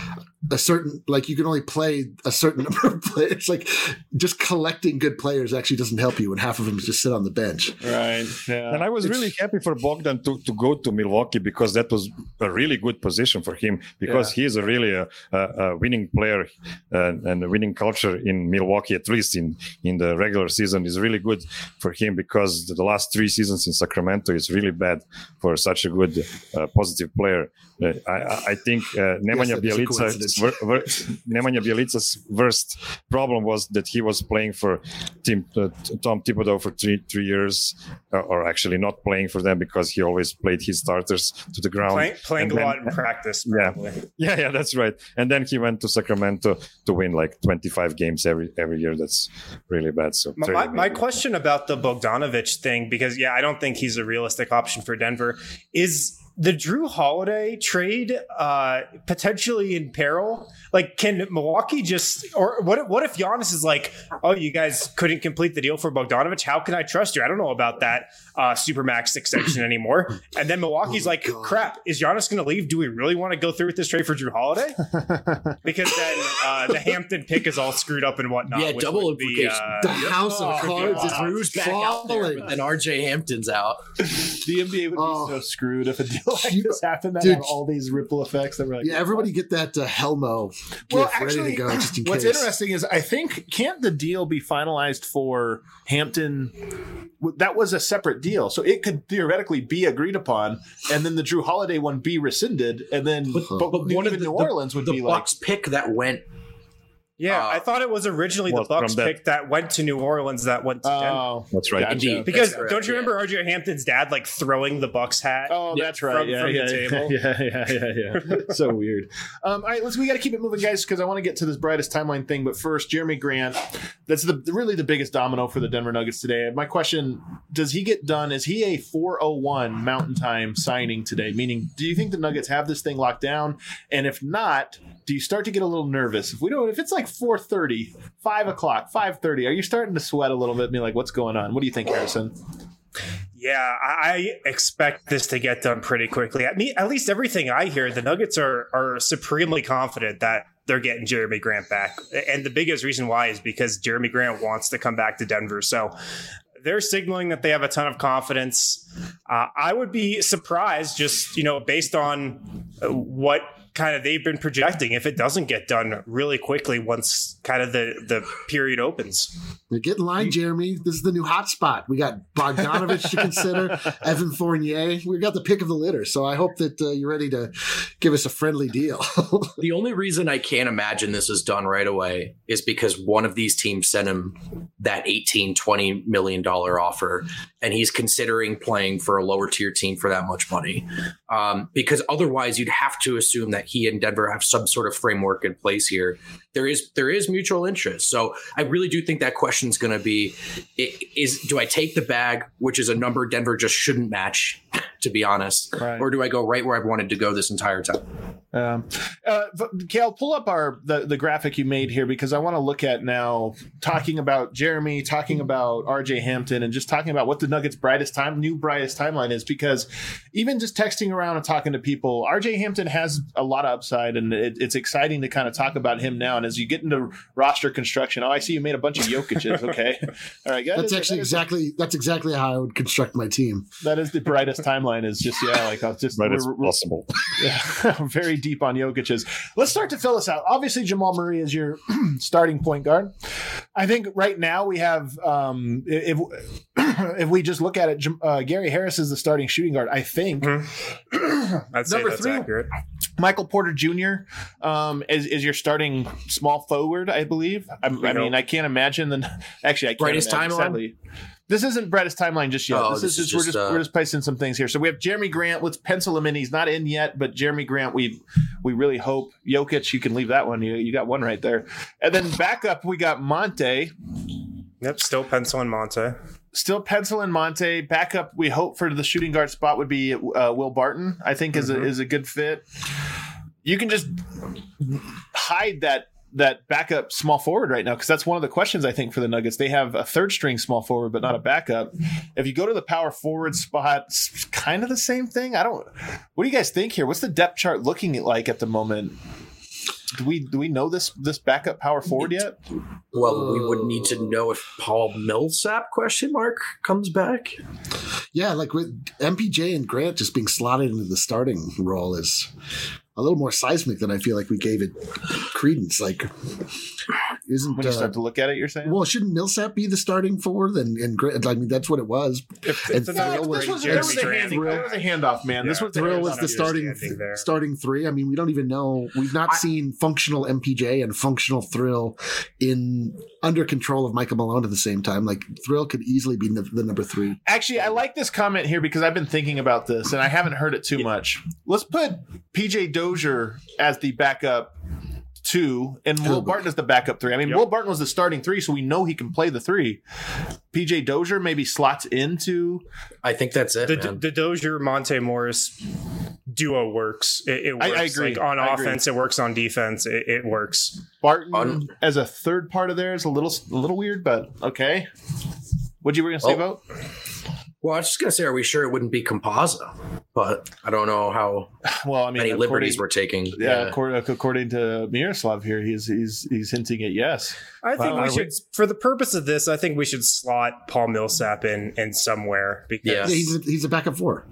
a certain, like you can only play a certain number of players. Like just collecting good players actually doesn't help you when half of them just sit on the bench. Right. Yeah. And I was really happy for Bogdan to, to go to Milwaukee because that was a really good position for him because Yeah. he is a really a, a, a winning player uh, and a winning culture in Milwaukee, at least in, in the regular season, is really good for him because the last three seasons in Sacramento is really bad for such a good uh, positive player. Uh, I, I think uh, Nemanja that is a Bjelica, coincidence. ver, ver, Nemanja Bjelica's worst problem was that he was playing for Tim, uh, Tom Thibodeau for three three years, uh, or actually not playing for them because he always played his starters to the ground. Playing, playing And a then- lot in practice, Yeah. probably. Yeah, yeah, that's right. And then he went to Sacramento to win like twenty-five games every every year. That's really bad. So My, my, my question about the Bogdanovich thing, because yeah, I don't think he's a realistic option for Denver, is the Drew Holiday trade uh, potentially in peril? Like, can Milwaukee just, or what? If, what if Giannis is like, oh, you guys couldn't complete the deal for Bogdanovich? How can I trust you? I don't know about that uh, supermax extension anymore. And then Milwaukee's Oh my like, God. crap, is Giannis going to leave? Do we really want to go through with this trade for Drew Holiday? Because then uh, the Hampton pick is all screwed up and whatnot. Yeah, which double would be, implication. uh, The house of Oh, cards God. is Drew's back out there, falling. but then R J Hampton's out. The N B A would be Oh. so screwed if a deal like You- this happened that dude. have all these ripple effects that were like, Yeah, everybody get that uh, Helmo gift Well, ready actually, to go just in what's case. interesting is I think can't the deal be finalized for Hampton? That was a separate deal, so it could theoretically be agreed upon, and then the Drew Holiday one be rescinded, and then but, But one of even the, New Orleans would the be like, Bucks pick that went. Yeah, Uh, I thought it was originally the was Bucks from that- pick that went to New Orleans that went to Denver. oh, That's right. gotcha. Indeed. Because That's correct, don't you yeah. remember R J Hampton's dad like throwing the Bucks hat? Oh, Yeah, that's right. from- yeah, from the yeah, table. yeah, yeah, yeah, yeah. So weird. Um, all right, let's. We got to keep it moving, guys, because I want to get to this brightest timeline thing. But first, Jeremy Grant. That's the really the biggest domino for the Denver Nuggets today. My question: does he get done? Is he a four oh one Mountain Time signing today? Meaning, do you think the Nuggets have this thing locked down? And if not, do you start to get a little nervous if we don't? If it's like four thirty, five o'clock, five thirty, are you starting to sweat a little bit? And be like, what's going on? What do you think, Harrison? Yeah, I I expect this to get done pretty quickly. At me, at least everything I hear, the Nuggets are are supremely confident that they're getting Jeremy Grant back, and the biggest reason why is because Jeremy Grant wants to come back to Denver. So they're signaling that they have a ton of confidence. Uh, I would be surprised, just you know, based on uh, what kind of they've been projecting, if it doesn't get done really quickly once kind of the the period opens. Now get in line, Jeremy. This is the new hot spot. We got Bogdanovich to consider, Evan Fournier. We got the pick of the litter. So I hope that uh, you're ready to give us a friendly deal. The only reason I can't imagine this is done right away is because one of these teams sent him that eighteen, twenty million dollar offer, and he's considering playing for a lower tier team for that much money. Um, because otherwise, you'd have to assume that he and Denver have some sort of framework in place here. There is there is mutual interest. So I really do think that question is going to be: is do I take the bag, which is a number Denver just shouldn't match, to be honest, Right. or do I go right where I've wanted to go this entire time? Um, uh, Kale, pull up our the, the graphic you made here because I want to look at now talking about Jeremy, talking about R J Hampton, and just talking about what the Nuggets' brightest time, new brightest timeline is. Because even just texting around and talking to people, R J Hampton has a lot of upside, and it, it's exciting to kind of talk about him now. And as you get into roster construction, oh, I see you made a bunch of Jokic's. Okay, all right, that That's is- actually that is- exactly that's exactly how I would construct my team. that is the brightest timeline. Is just yeah, like I'll just Right as we're- we're- possible. yeah, very deep on Jokic's. Let's start to fill us out. Obviously, Jamal Murray is your starting point guard. I think right now we have, um, if if we just look at it, Jam- uh, Gary Harris is the starting shooting guard. I think I'd say Number that's three. accurate. Michael Porter Junior Um, is, is your starting small forward, I believe. I, I hope. mean, I can't imagine the. Actually, I can't Brightest imagine, timeline? sadly. This isn't brightest timeline just yet. Oh, this, this is is just, we're just, just uh, we're just placing some things here. So we have Jeremy Grant. Let's pencil him in. He's not in yet, but Jeremy Grant, we we really hope. Jokic, you can leave that one. You you got one right there. And then back up, we got Monte. Yep, still penciling Monte. still penciling Monte. Backup, we hope for the shooting guard spot would be uh, Will Barton, I think is, mm-hmm. a, is a good fit. You can just hide that that backup small forward right now, because that's one of the questions I think for the Nuggets. They have a third string small forward, but not a backup. If you go to the power forward spot, it's kind of the same thing. I don't. What do you guys think here? What's the depth chart looking like at the moment? Do we do we know this this backup power forward yet? Well, we would need to know if Paul Millsap question mark comes back. Yeah, like with M P J and Grant just being slotted into the starting role is a little more seismic than I feel like we gave it credence. Like, isn't when you uh, start to look at it, you're saying? Well, shouldn't Millsap be the starting forward? And and Grant, I mean, that's what it was. If, and if Yeah, Thrill this was, was, there, was a Strand. hand, there was a handoff, man. Yeah. This was the Thrill handoff. was the starting understanding there. starting three. I mean, we don't even know. We've not I- seen functional M P J and functional Thrill in under control of Michael Malone at the same time. Like Thrill could easily be the, the number three. Actually, I like this comment here because I've been thinking about this and I haven't heard it too much. Let's put P J Dozier as the backup two and Will Barton as the backup three. I mean, Yep. Will Barton was the starting three, so we know he can play the three. P J Dozier maybe slots into. I think that's it. The, man. the Dozier Monte Morris duo works. It, it I- works. I agree. Like on I agree. offense, it works. On defense, it, it works. Barton Un- as a third part of there is a little a little weird, but okay. What you were going to say Oh. about? Well, I was just gonna say, are we sure it wouldn't be Composa? But I don't know how Well, I mean, many according- liberties we're taking. Yeah, according, according to Miroslav here, he's he's he's hinting at yes. I think Well, we are should, for the purpose of this, I think we should slot Paul Millsap in in somewhere because Yeah. Yeah, he's a, he's a backup four.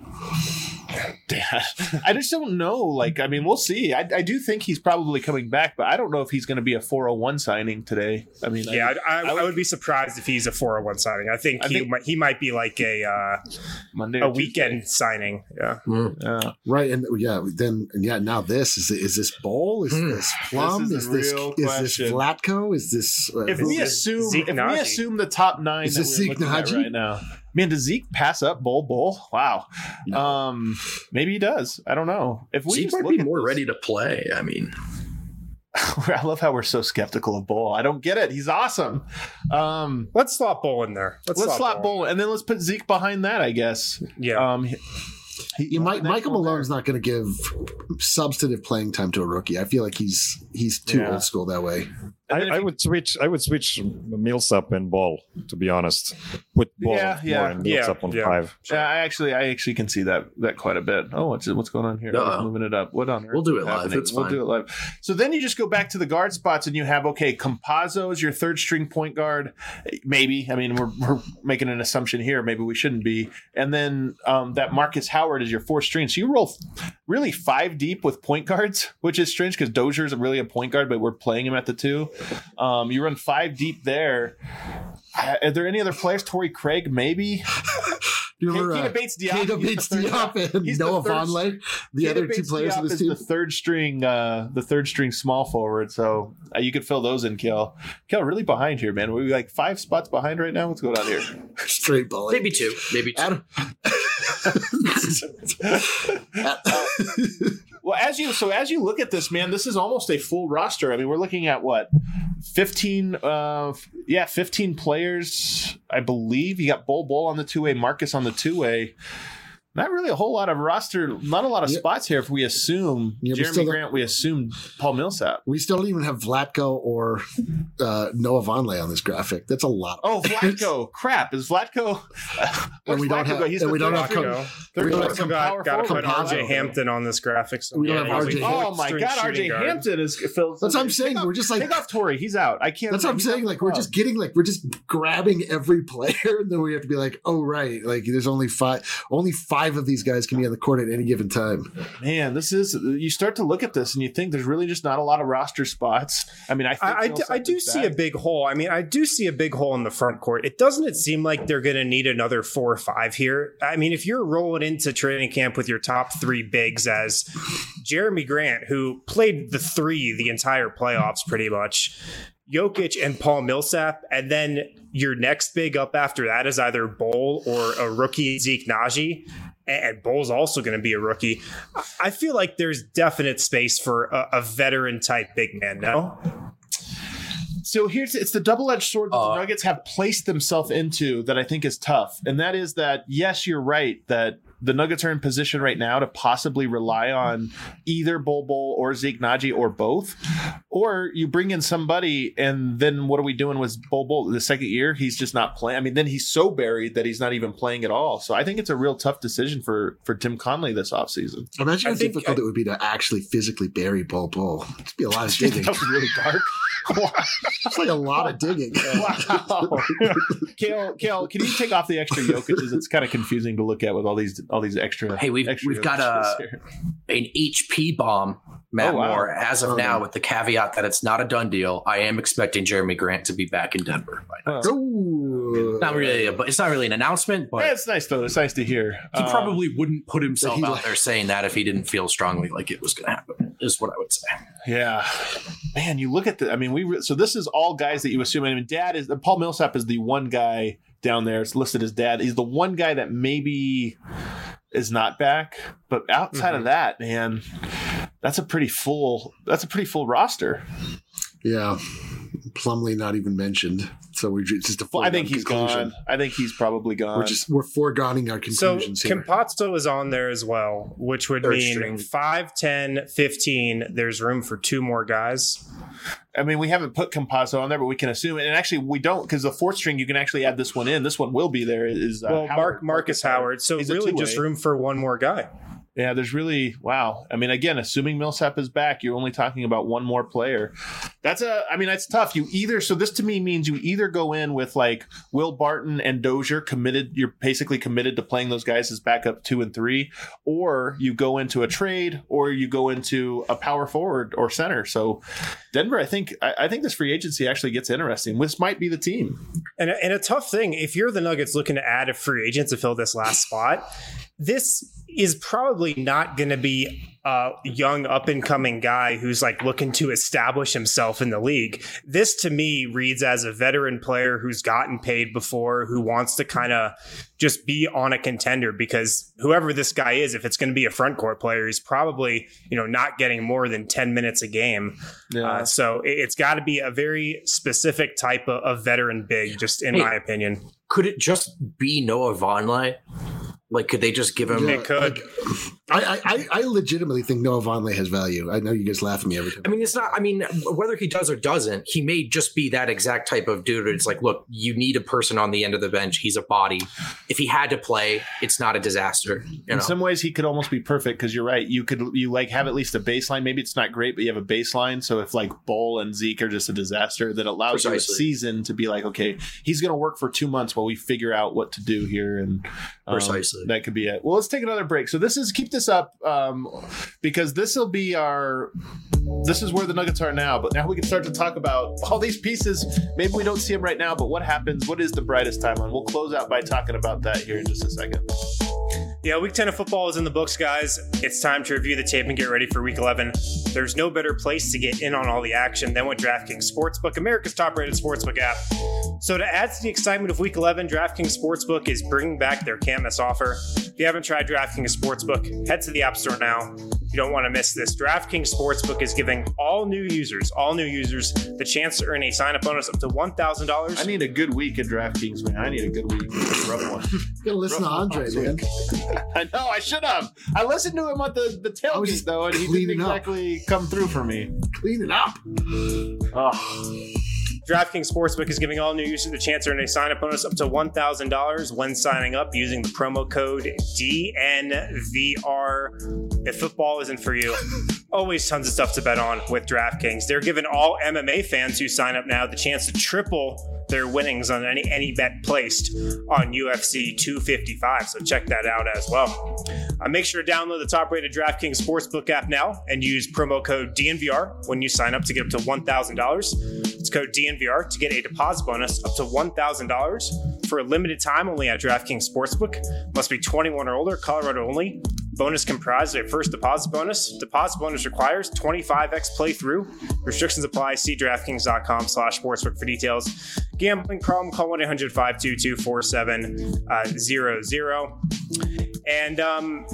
I just don't know. Like, I mean, we'll see. I, I do think he's probably coming back, but I don't know if he's going to be a four oh one signing today. I mean, yeah, I, I, I would- I would be surprised if he's a four oh one signing. I think I he think- might, he might be like a uh, Monday a or weekend signing. Yeah, Mm. Tuesday. Yeah. Right, and yeah, then and yeah, now this is is this Bowl? Is Hmm. this Plum? This is is the this real is question. this Vlatko? Is this uh, If this we is- assume Zeke if we Naji. assume the top nine Is that this we're Zeke looking at Naji? right now, man, does Zeke pass up Bull Bull? Wow. No. Um, maybe he does. I don't know. If we Zeke just might look be at more this- ready to play. I mean, I love how we're so skeptical of Bull. I don't get it. He's awesome. Um, let's slot Bull in there. Let's, let's slot Bull. Bull, and then let's put Zeke behind that. I guess. Yeah, Um, he- he- Yeah, Mike, next Michael one there. Malone's not going to give substantive playing time to a rookie. I feel like he's he's too Yeah. old school that way. And I, then if I you- would switch. I would switch Millsap and Ball. To be honest, put Ball Yeah, on yeah. four and Yeah, Millsap on yeah. five. Yeah, I actually, I actually can see that that quite a bit. Oh, what's what's going on here? Uh-oh. I'm moving it up. What on earth? We'll do it is live. happening? It's We'll fine. do it live. So then you just go back to the guard spots, and you have okay, Campazzo is your third string point guard. Maybe. I mean, we're we're making an assumption here. Maybe we shouldn't be. And then um, that Marcus Howard is your fourth string. So you roll really five deep with point guards, which is strange because Dozier's really a point guard, but we're playing him at the two. Um, you run five deep there. Uh, Are there any other players? Torrey Craig, maybe. Do you remember Keita uh, Bates Diop. Keita he's Bates the third- Diop and he's the Noah third- Vonleh, the Keita other two Bates players Diop of this is team? the third string, uh, the third string small forward. So uh, you could fill those in, Kel. Kel, really behind here, man. We're like five spots behind right now. What's going on here? Straight bully. maybe two, maybe two. Adam. Well, as you so as you look at this, man, this is almost a full roster. I mean, we're looking at what fifteen, uh, yeah, fifteen players, I believe. You got Bol Bol on the two way, Marcus on the two way. Not really a whole lot of roster, not a lot of Yeah. spots here. If we assume Yeah, we Jeremy still don't- Grant, we assume Paul Millsap. We still don't even have Vlatko or uh, Noah Vonleh on this graphic. That's a lot. Oh, Vlatko! Crap, is Vlatko? And we don't have- Go? He's and the we don't third have string- Go. third we don't string have power Got to forward. put R J Composo. Hampton on this graphic. So We don't yeah, have he's R J a Oh fourth my string God, R J shooting guard. Hampton is. Phil, That's what I'm saying. Take We're off- just like- take off Torrey. He's out. I can't. That's what I'm he's saying. off Like the we're club. just getting like we're just grabbing every player, and then we have to be like, oh right, like there's only five, only five of these guys can be on the court at any given time. Man, this is you start to look at this and you think there's really just not a lot of roster spots. I mean, I think I, I, do, I do see a big hole. I mean, I do see a big hole in the front court. It doesn't it seem like they're going to need another four or five here? I mean, if you're rolling into training camp with your top three bigs as Jeremy Grant, who played the three the entire playoffs pretty much, Jokic and Paul Millsap, and then your next big up after that is either Bol or a rookie Zeke Naji. And Bol's also going to be a rookie. I feel like there's definite space for a, a veteran type big man. No, So here's it's the double-edged sword that Uh, the Nuggets have placed themselves into that I think is tough. And that is that, yes, you're right that the Nuggets are in position right now to possibly rely on either Bol Bol or Zeke Naji or both. Or you bring in somebody and then what are we doing with Bol Bol? The second year, he's just not playing. I mean, then he's so buried that he's not even playing at all. So I think it's a real tough decision for, for Tim Conley this offseason. Imagine I how think difficult I- it would be to actually physically bury Bol Bol. It'd be a lot of digging. That was really dark. It's like a lot of digging. Wow. Kale, Kale, can you take off the extra Jokic's? It's kind of confusing to look at with all these all these extra. Hey, we've extra we've got Jokic's a here. an H P bomb, Matt Oh, wow. Moore. As of Oh, now, no. with the caveat that it's not a done deal, I am expecting Jeremy Grant to be back in Denver by now. Oh. Ooh. Not really, but it's not really an announcement. But Yeah, it's nice though. It's nice to hear. he Um, probably wouldn't put himself he out like- there saying that if he didn't feel strongly like it was going to happen. Is what I would say. Yeah, man. You look at the. I mean, we. Re- so this is all guys that you assume. I mean, Dad is Paul Millsap is the one guy down there. It's listed as Dad. He's the one guy that maybe is not back. But outside Mhm. of that, man, that's a pretty full. That's a pretty full roster. Yeah. Plumlee not even mentioned. So we're ju- just a Well, I think foregone he's conclusion. gone. I think he's probably gone. We're just we're foregoing our So conclusions here. Campazzo is on there as well, which would Third mean string. five, ten, fifteen. There's room for two more guys. I mean, we haven't put Campazzo on there, but we can assume it. And actually, we don't because the fourth string, you can actually add this one in. This one will be there. Is uh, Well, Howard, Mark Marcus Howard. So He's a really, two-way. just room for one more guy. Yeah, there's really wow. I mean, again, assuming Millsap is back, you're only talking about one more player. That's a. I mean, that's tough. You either so this to me means you either go in with like Will Barton and Dozier committed. You're basically committed to playing those guys as backup two and three, or you go into a trade, or you go into a power forward or center. So Denver, I think I, I think this free agency actually gets interesting. This might be the team. And a, and a tough thing, if you're the Nuggets looking to add a free agent to fill this last spot, this is probably not going to be a young up and coming guy who's like looking to establish himself in the league. This to me reads as a veteran player who's gotten paid before, who wants to kind of just be on a contender, because whoever this guy is, if it's going to be a front court player, he's probably, you know, not getting more than ten minutes a game. Yeah. Uh, so it- it's got to be a very specific type of, of veteran big, just in Hey. my opinion. Could it just be Noah Vonleh? Like, could they just give him? Yeah, It could. like, I, I, I legitimately think Noah Vonleh has value. I know you guys laugh at me every time. I mean, it's not. I mean, whether he does or doesn't, he may just be that exact type of dude. It's like, look, you need a person on the end of the bench. He's a body. If he had to play, it's not a disaster. You In know? some ways, he could almost be perfect because you're right. You could you like have at least a baseline. Maybe it's not great, but you have a baseline. So if like Bull and Zeke are just a disaster, that allows you Precisely. a season to be like, okay, he's going to work for two months while we figure out what to do here, and um, Precisely. that could be it. Well, let's take another break. So this is keep this up um, because this will be our. This is where the Nuggets are now, but now we can start to talk about all these pieces. Maybe we don't see them right now, but what happens? What is the brightest timeline? We'll close out by talking about that here in just a second. Yeah, week ten of football is in the books, guys. It's time to review the tape and get ready for week eleven. There's no better place to get in on all the action than with DraftKings Sportsbook, America's top-rated sportsbook app. So to add to the excitement of week eleven, DraftKings Sportsbook is bringing back their can't miss offer. If you haven't tried DraftKings Sportsbook, head to the App Store now. You don't want to miss this. DraftKings Sportsbook is giving all new users, all new users, the chance to earn a sign-up bonus up to one thousand dollars. I need a good week at DraftKings, man. I need a good week. It's a rough one. You gotta listen to Rough Andre, last man. I know, I should have. I listened to him at the, the I was tailgate, just though, and he didn't cleaning up. exactly come through for me. Clean it up. Oh. DraftKings Sportsbook is giving all new users the chance to earn a sign-up bonus up to one thousand dollars when signing up using the promo code D N V R. If football isn't for you, always tons of stuff to bet on with DraftKings. They're giving all M M A fans who sign up now the chance to triple their winnings on any, any bet placed on U F C two fifty-five. So check that out as well. Uh, make sure to download the top-rated DraftKings Sportsbook app now and use promo code D N V R when you sign up to get up to one thousand dollars. It's code D N V R to get a deposit bonus up to one thousand dollars for a limited time only at DraftKings Sportsbook. Must be twenty-one or older, Colorado only. Bonus comprised of a first deposit bonus. Deposit bonus requires twenty-five x playthrough. Restrictions apply. See DraftKings.com slash sportsbook for details. Gambling problem, call one eight hundred five two two four seven zero zero. And um,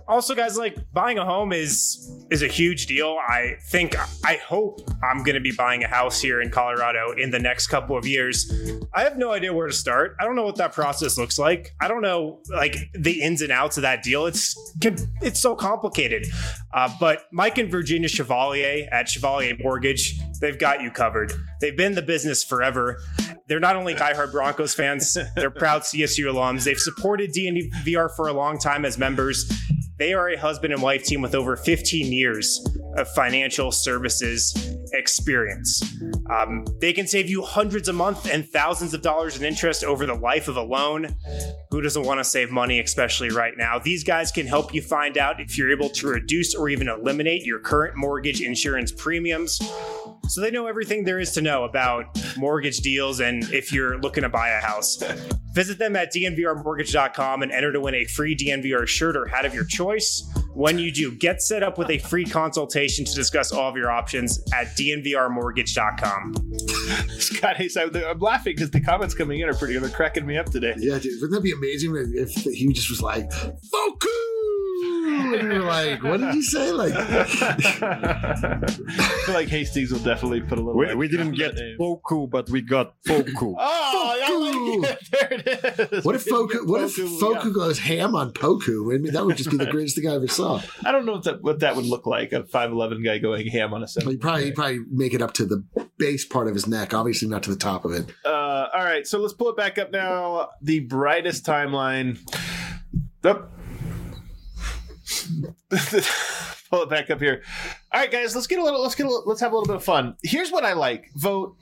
Also, guys, like buying a home is is a huge deal. I think, I hope I'm going to be buying a house here in Colorado in the next couple of years. I have no idea where to start. I don't know what that process looks like. I don't know like the ins and outs of that deal. It's it's so complicated. Uh, but Mike and Virginia Chevalier at Chevalier Mortgage, they've got you covered. They've been in the business forever. They're not only diehard Broncos fans, they're proud C S U alums. They've supported D N V R for a long time as members. They are a husband and wife team with over fifteen years of financial services experience. Um, they can save you hundreds a month and thousands of dollars in interest over the life of a loan. Who doesn't want to save money, especially right now? These guys can help you find out if you're able to reduce or even eliminate your current mortgage insurance premiums. So they know everything there is to know about mortgage deals and if you're looking to buy a house. Visit them at D N V R mortgage dot com and enter to win a free D N V R shirt or hat of your choice. When you do, get set up with a free consultation to discuss all of your options at D N V R mortgage dot com. Scott Hayes, I'm laughing because the comments coming in are pretty, they're cracking me up today. Yeah, dude, wouldn't that be amazing if he just was like, Foku! And you're like, what did you say? Like, I feel like Hastings will definitely put a little. We, we didn't get Foku, but we got Foku. Oh, I like it. There it is. What if Foku? What if Foku goes ham on Poku? I mean, that would just be the greatest thing I ever saw. I don't know what that what that would look like. A five eleven guy going ham on a seven. Well, he probably he'd probably make it up to the base part of his neck. Obviously, not to the top of it. Uh, all right, so let's pull it back up now. The brightest timeline. Up. Pull it back up here. All right, guys, let's get a little. Let's get a little, let's have a little bit of fun. Here's what I like. Vote.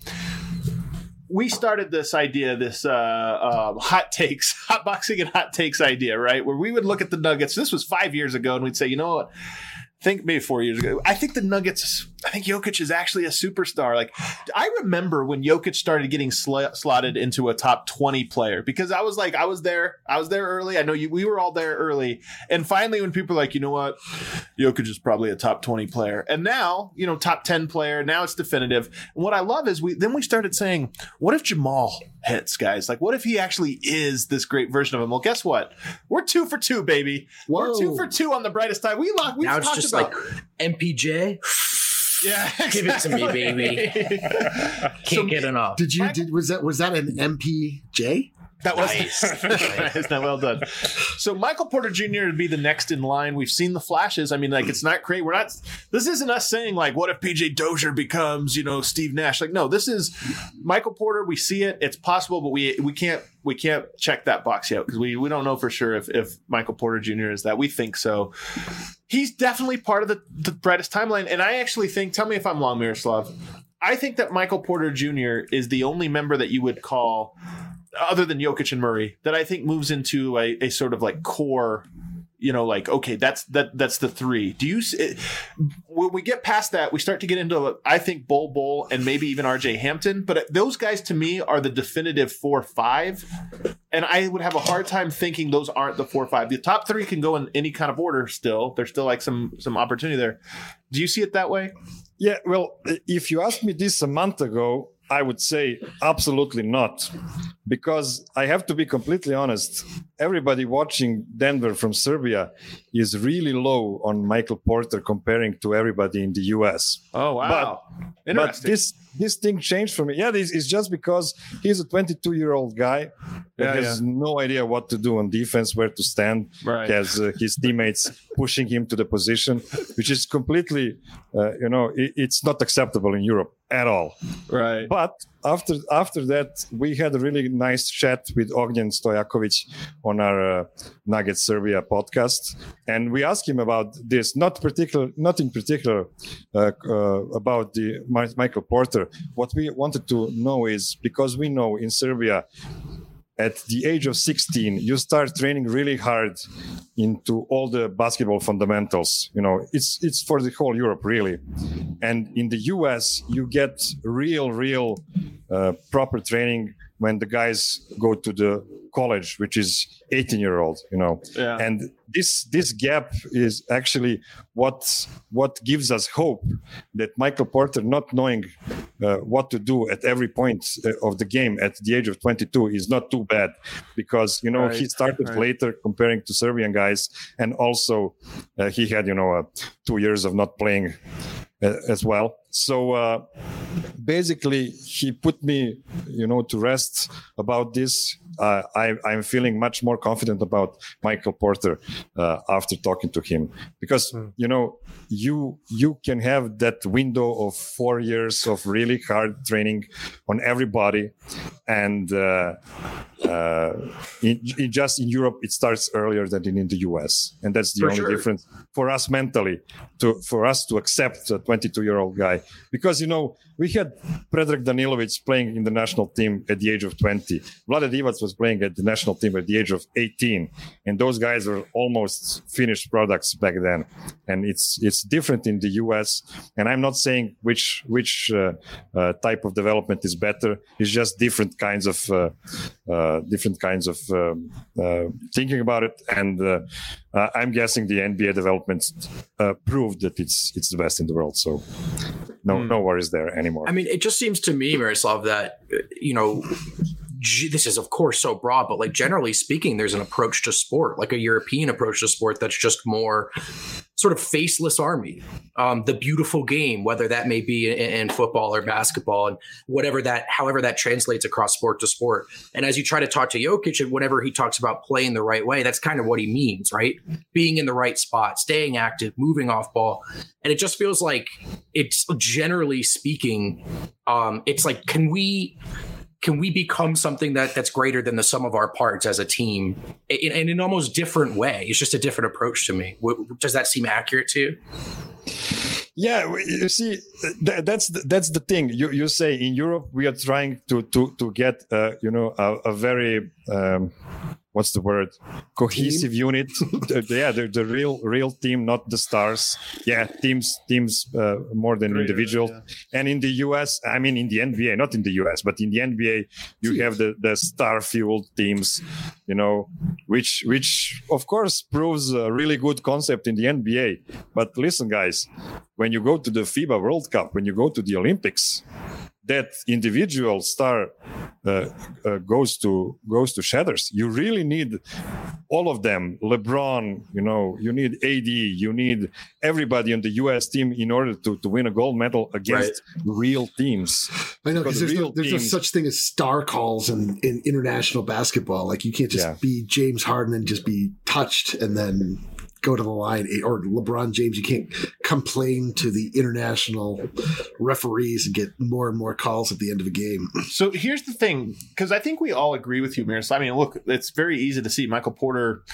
We started this idea, this uh, uh, hot takes, hot boxing and hot takes idea, right? Where we would look at the Nuggets. This was five years ago, and we'd say, you know what? I think maybe four years ago. I think the Nuggets, I think Jokic is actually a superstar. Like, I remember when Jokic started getting sl- slotted into a top twenty player because I was like, I was there. I was there early. I know you, we were all there early. And finally, when people are like, you know what? Jokic is probably a top twenty player. And now, you know, top ten player. Now it's definitive. And what I love is we, then we started saying, what if Jamal hits, guys? Like, what if he actually is this great version of him? Well, guess what? We're two for two, baby. Whoa. We're two for two on the brightest time. We lock. We Now it's just about, like M P J. Yeah, Give it to me, baby. Can't So, get enough. Did you? Did was that was that an M P J? That was Nice. nice. Not well done. So Michael Porter Junior would be the next in line. We've seen the flashes. I mean, like, it's not great. We're not. This isn't us saying like, what if P J Dozier becomes, you know, Steve Nash? Like, no, this is Michael Porter. We see it. It's possible, but we we can't we can't check that box yet because we we don't know for sure if if Michael Porter Junior is that. We think so. He's definitely part of the, the brightest timeline, and I actually think. Tell me if I'm wrong, Miroslav. I think that Michael Porter Junior is the only member that you would call, other than Jokic and Murray, that I think moves into a, a sort of like core, you know, like, okay, that's that that's the three. Do you it, when we get past that, we start to get into, I think, Bol Bol and maybe even R J Hampton, but those guys to me are the definitive four five, and I would have a hard time thinking those aren't the four five. The top three can go in any kind of order. Still, there's still like some some opportunity there. Do you see it that way? Yeah, well, if you asked me this a month ago, I would say absolutely not, because I have to be completely honest. Everybody watching Denver from Serbia is really low on Michael Porter comparing to everybody in the U S. Oh, wow. But, but this this thing changed for me. Yeah, this is just because he's a twenty-two-year-old guy that Yeah, has yeah. no idea what to do on defense, where to stand. Right. He has uh, his teammates pushing him to the position, which is completely, uh, you know, it, it's not acceptable in Europe at all. Right. But after after that, we had a really nice chat with Ognjen Stojakovic on our uh, Nugget Serbia podcast, and we asked him about this. Not particular, not in particular uh, uh, about the Mi- Michael Porter. What we wanted to know is, because we know in Serbia, at the age of sixteen, you start training really hard into all the basketball fundamentals. You know, it's it's for the whole Europe, really. And in the U S, you get real, real uh, proper training when the guys go to the college, which is eighteen year old, you know, Yeah. and this this gap is actually what what gives us hope that Michael Porter, not knowing uh, what to do at every point uh, of the game at the age of twenty-two, is not too bad, because you know Right, he started right. later comparing to Serbian guys, and also uh, he had you know uh, two years of not playing uh, as well. So uh, basically, he put me, you know, to rest about this. Uh, I, I'm feeling much more confident about Michael Porter uh, after talking to him, because you know you you can have that window of four years of really hard training on everybody, and uh, uh, in, in just in Europe it starts earlier than in, in the U S, and that's the For only sure. difference for us mentally to for us to accept a twenty-two year old guy, because you know we had Predrag Danilovic playing in the national team at the age of twenty. Vlade Divac was playing at the national team at the age of eighteen, and those guys were almost finished products back then. And it's it's different in the U S. And I'm not saying which which uh, uh, type of development is better. It's just different kinds of uh, uh, different kinds of um, uh, thinking about it. And uh, uh, I'm guessing the N B A development uh, proved that it's it's the best in the world. So no no worries there anymore. I mean, it just seems to me, Miroslav, that, uh, you know, g- this is, of course, so broad, but like generally speaking, there's an approach to sport, like a European approach to sport that's just more sort of faceless army. Um, the beautiful game, whether that may be in, in football or basketball, and whatever that, however that translates across sport to sport. And as you try to talk to Jokic, and whenever he talks about playing the right way, that's kind of what he means, right? Being in the right spot, staying active, moving off ball. And it just feels like it's, generally speaking, um, it's like, can we can we become something that that's greater than the sum of our parts as a team in, in an almost different way? It's just a different approach to me. W- Does that seem accurate to you? Yeah, you see, th- that's the, that's the thing. You you say in Europe we are trying to to to get uh, you know a, a very um, what's the word, cohesive unit. The- yeah, the, the real real team, not the stars. Yeah, teams teams uh, more than Greater, individuals. yeah. And in the U S, I mean in the N B A, not in the U S, but in the N B A, you have the the star fueled teams. You know, which which of course proves a really good concept in the N B A. But listen, guys, when you go to the FIBA World Cup, when you go to the Olympics, that individual star uh, uh, goes to goes to shatters. You really need all of them. LeBron, you know, you need A D, you need everybody on the U S team in order to, to win a gold medal against real teams. I know, because Because there's, no, real there's no teams- such thing as star calls in, in international basketball. Like, you can't just Yeah. be James Harden and just be touched and then go to the line, or LeBron James. You can't complain to the international referees and get more and more calls at the end of a game. So here's the thing, because I think we all agree with you, Miroslav. I mean, look, it's very easy to see Michael Porter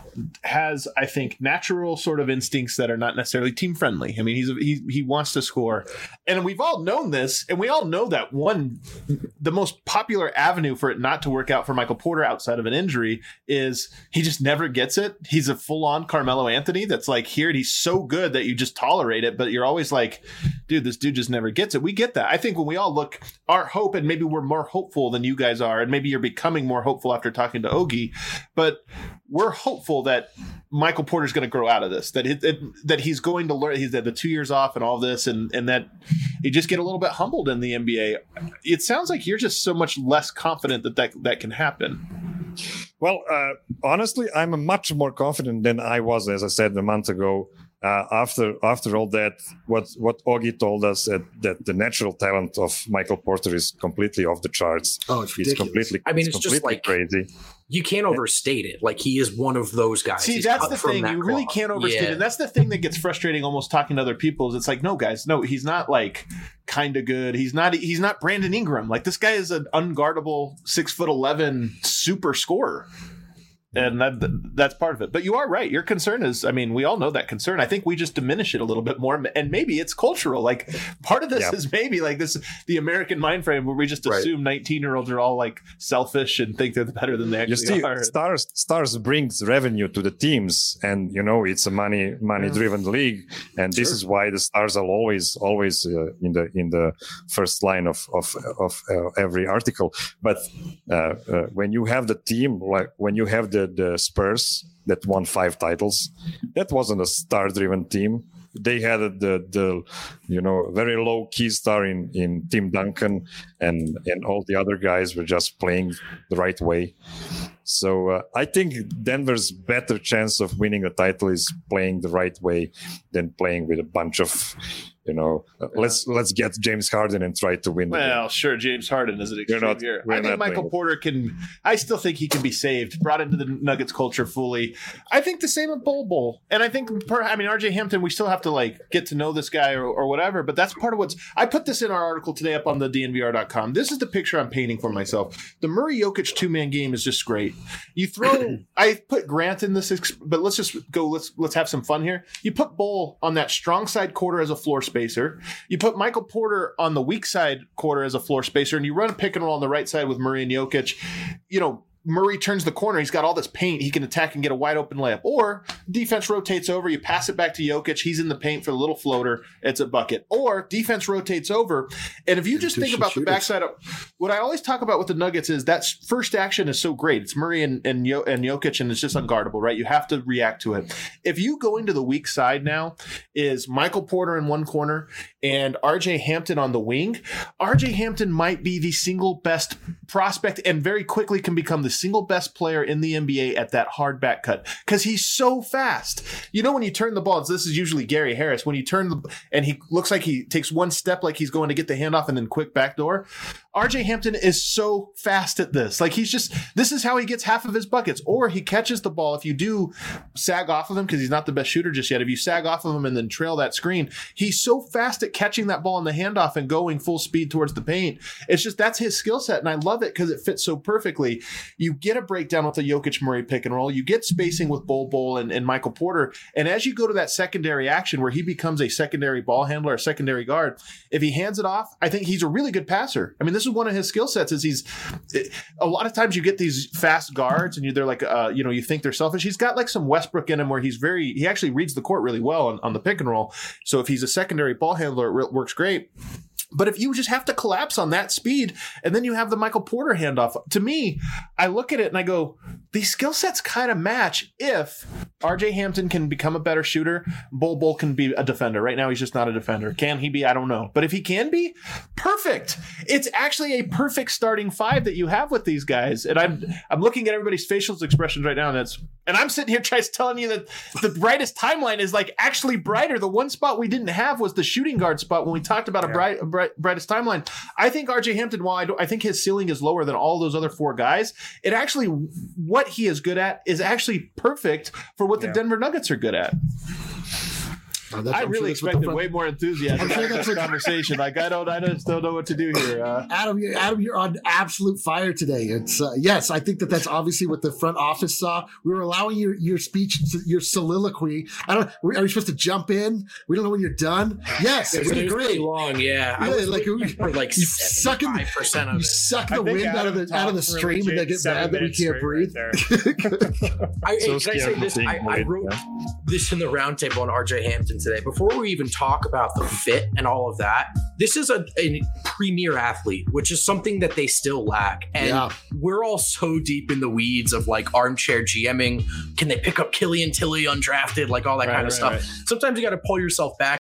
has, I think, natural sort of instincts that are not necessarily team friendly. I mean, he's he he wants to score, and we've all known this, and we all know that one, the most popular avenue for it not to work out for Michael Porter outside of an injury is he just never gets it. He's a full on Carmelo Anthony that's like here, and he's so good that you just tolerate it, but you're always like, dude, this dude just never gets it. We get that. I think when we all look, our hope, and maybe we're more hopeful than you guys are, and maybe you're becoming more hopeful after talking to Ogie, but we're hopeful that Michael Porter's going to grow out of this, that it, it, that he's going to learn. He's had the two years off and all this, and and that he just get a little bit humbled in the N B A. It sounds like you're just so much less confident that that, that can happen. Well, uh, honestly, I'm much more confident than I was, as I said a month ago. Uh, after after all that, what what Augie told us that, that the natural talent of Michael Porter is completely off the charts. Oh, it's It's ridiculous. completely. I mean, it's just completely like- crazy. You can't overstate it. Like, he is one of those guys. See, He's that's cut the from thing. that You really cloth. can't overstate Yeah. it. That's the thing that gets frustrating almost talking to other people is it's like, no, guys, no, he's not like kind of good. He's not he's not Brandon Ingram. Like, this guy is an unguardable six foot eleven super scorer. and that that's part of it. But you are right. Your concern is, I mean, we all know that concern. I think we just diminish it a little bit more, and maybe it's cultural. Like part of this yeah. is maybe like this the American mind frame where we just assume nineteen year olds are all like selfish and think they're better than they actually you see, are. Stars Stars brings revenue to the teams, and you know it's a money money driven yeah. league, and this sure. is why the Stars are always always uh, in the in the first line of of of uh, every article. But uh, uh, when you have the team, like when you have the the Spurs that won five titles, that wasn't a star driven team. They had the the you know very low key star in in Tim Duncan, and and all the other guys were just playing the right way. So uh, I think Denver's better chance of winning a title is playing the right way than playing with a bunch of, you know, uh, yeah. let's let's get James Harden and try to win. Well, sure, James Harden is an extreme not, here. I think Michael Porter can. I still think he can be saved, brought into the Nuggets culture fully. I think the same with Bol Bol, and I think per, I mean R J Hampton. We still have to like get to know this guy or, or whatever. But that's part of what's. I put this in our article today up on the D N V R dot com. This is the picture I'm painting for myself. The Murray Jokic two man game is just great. You throw. I put Grant in this, but let's just go. Let's let's have some fun here. You put Bol on that strong side quarter as a floor spacer. You put Michael Porter on the weak side quarter as a floor spacer, and you run a pick and roll on the right side with Murray and Jokic. You know, Murray turns the corner. He's got all this paint. He can attack and get a wide open layup. Or defense rotates over. You pass it back to Jokic. He's in the paint for the little floater. It's a bucket. Or defense rotates over. And if you just think about the backside of what I always talk about with the Nuggets is that first action is so great. It's Murray and, and, Yo, and Jokic, and it's just unguardable, right? You have to react to it. If you go into the weak side now is Michael Porter in one corner and R J Hampton on the wing. R J Hampton might be the single best prospect and very quickly can become the single best player in the N B A at that hard back cut because he's so fast. You know, when you turn the ball, this is usually Gary Harris. When you turn the and he looks like he takes one step like he's going to get the handoff and then quick backdoor. R J Hampton is so fast at this. Like he's just, this is how he gets half of his buckets. Or he catches the ball. If you do sag off of him, because he's not the best shooter just yet, if you sag off of him and then trail that screen, he's so fast at catching that ball in the handoff and going full speed towards the paint. It's just, that's his skill set. And I love it because it fits so perfectly. You get a breakdown with the Jokic Murray pick and roll. You get spacing with Bol Bol and, and Michael Porter. And as you go to that secondary action where he becomes a secondary ball handler, a secondary guard, if he hands it off, I think he's a really good passer. I mean, this is one of his skill sets is he's a lot of times you get these fast guards and you, they're like, uh, you know, you think they're selfish. He's got like some Westbrook in him where he's very, he actually reads the court really well on, on the pick and roll. So if he's a secondary ball handler, it works great. But if you just have to collapse on that speed and then you have the Michael Porter handoff, to me, I look at it and I go, these skill sets kind of match if R J Hampton can become a better shooter, Bol Bol can be a defender. Right now, he's just not a defender. Can he be? I don't know. But if he can be, perfect. It's actually a perfect starting five that you have with these guys. And I'm I'm looking at everybody's facial expressions right now, and that's and I'm sitting here trying to telling you that the brightest timeline is like actually brighter. The one spot we didn't have was the shooting guard spot when we talked about yeah. a bright, a bright brightest timeline. I think R J Hampton, while I, don't, I think his ceiling is lower than all those other four guys, it actually, what he is good at is actually perfect for what the yeah. Denver Nuggets are good at. Oh, I I'm really sure expected way more enthusiasm for this conversation. Like I don't, I just don't know what to do here. Uh, Adam, you're, Adam, you're on absolute fire today. It's uh, yes, I think that that's obviously what the front office saw. We were allowing your your speech, your soliloquy. I don't. Are we supposed to jump in? We don't know when you're done. Yes, it was pretty long. Yeah, yeah like for like you suck percent of it. You suck the wind out of the out of the stream, and they get mad that we can't breathe. Right I, so can I say this? I, I wrote this in the roundtable on R J Hampton today. Before we even talk about the fit and all of that, this is a, a premier athlete, which is something that they still lack. And yeah. we're all so deep in the weeds of like armchair GMing. Can they pick up Killian Tilly undrafted? Like all that right, kind of right, stuff. Right. Sometimes you got to pull yourself back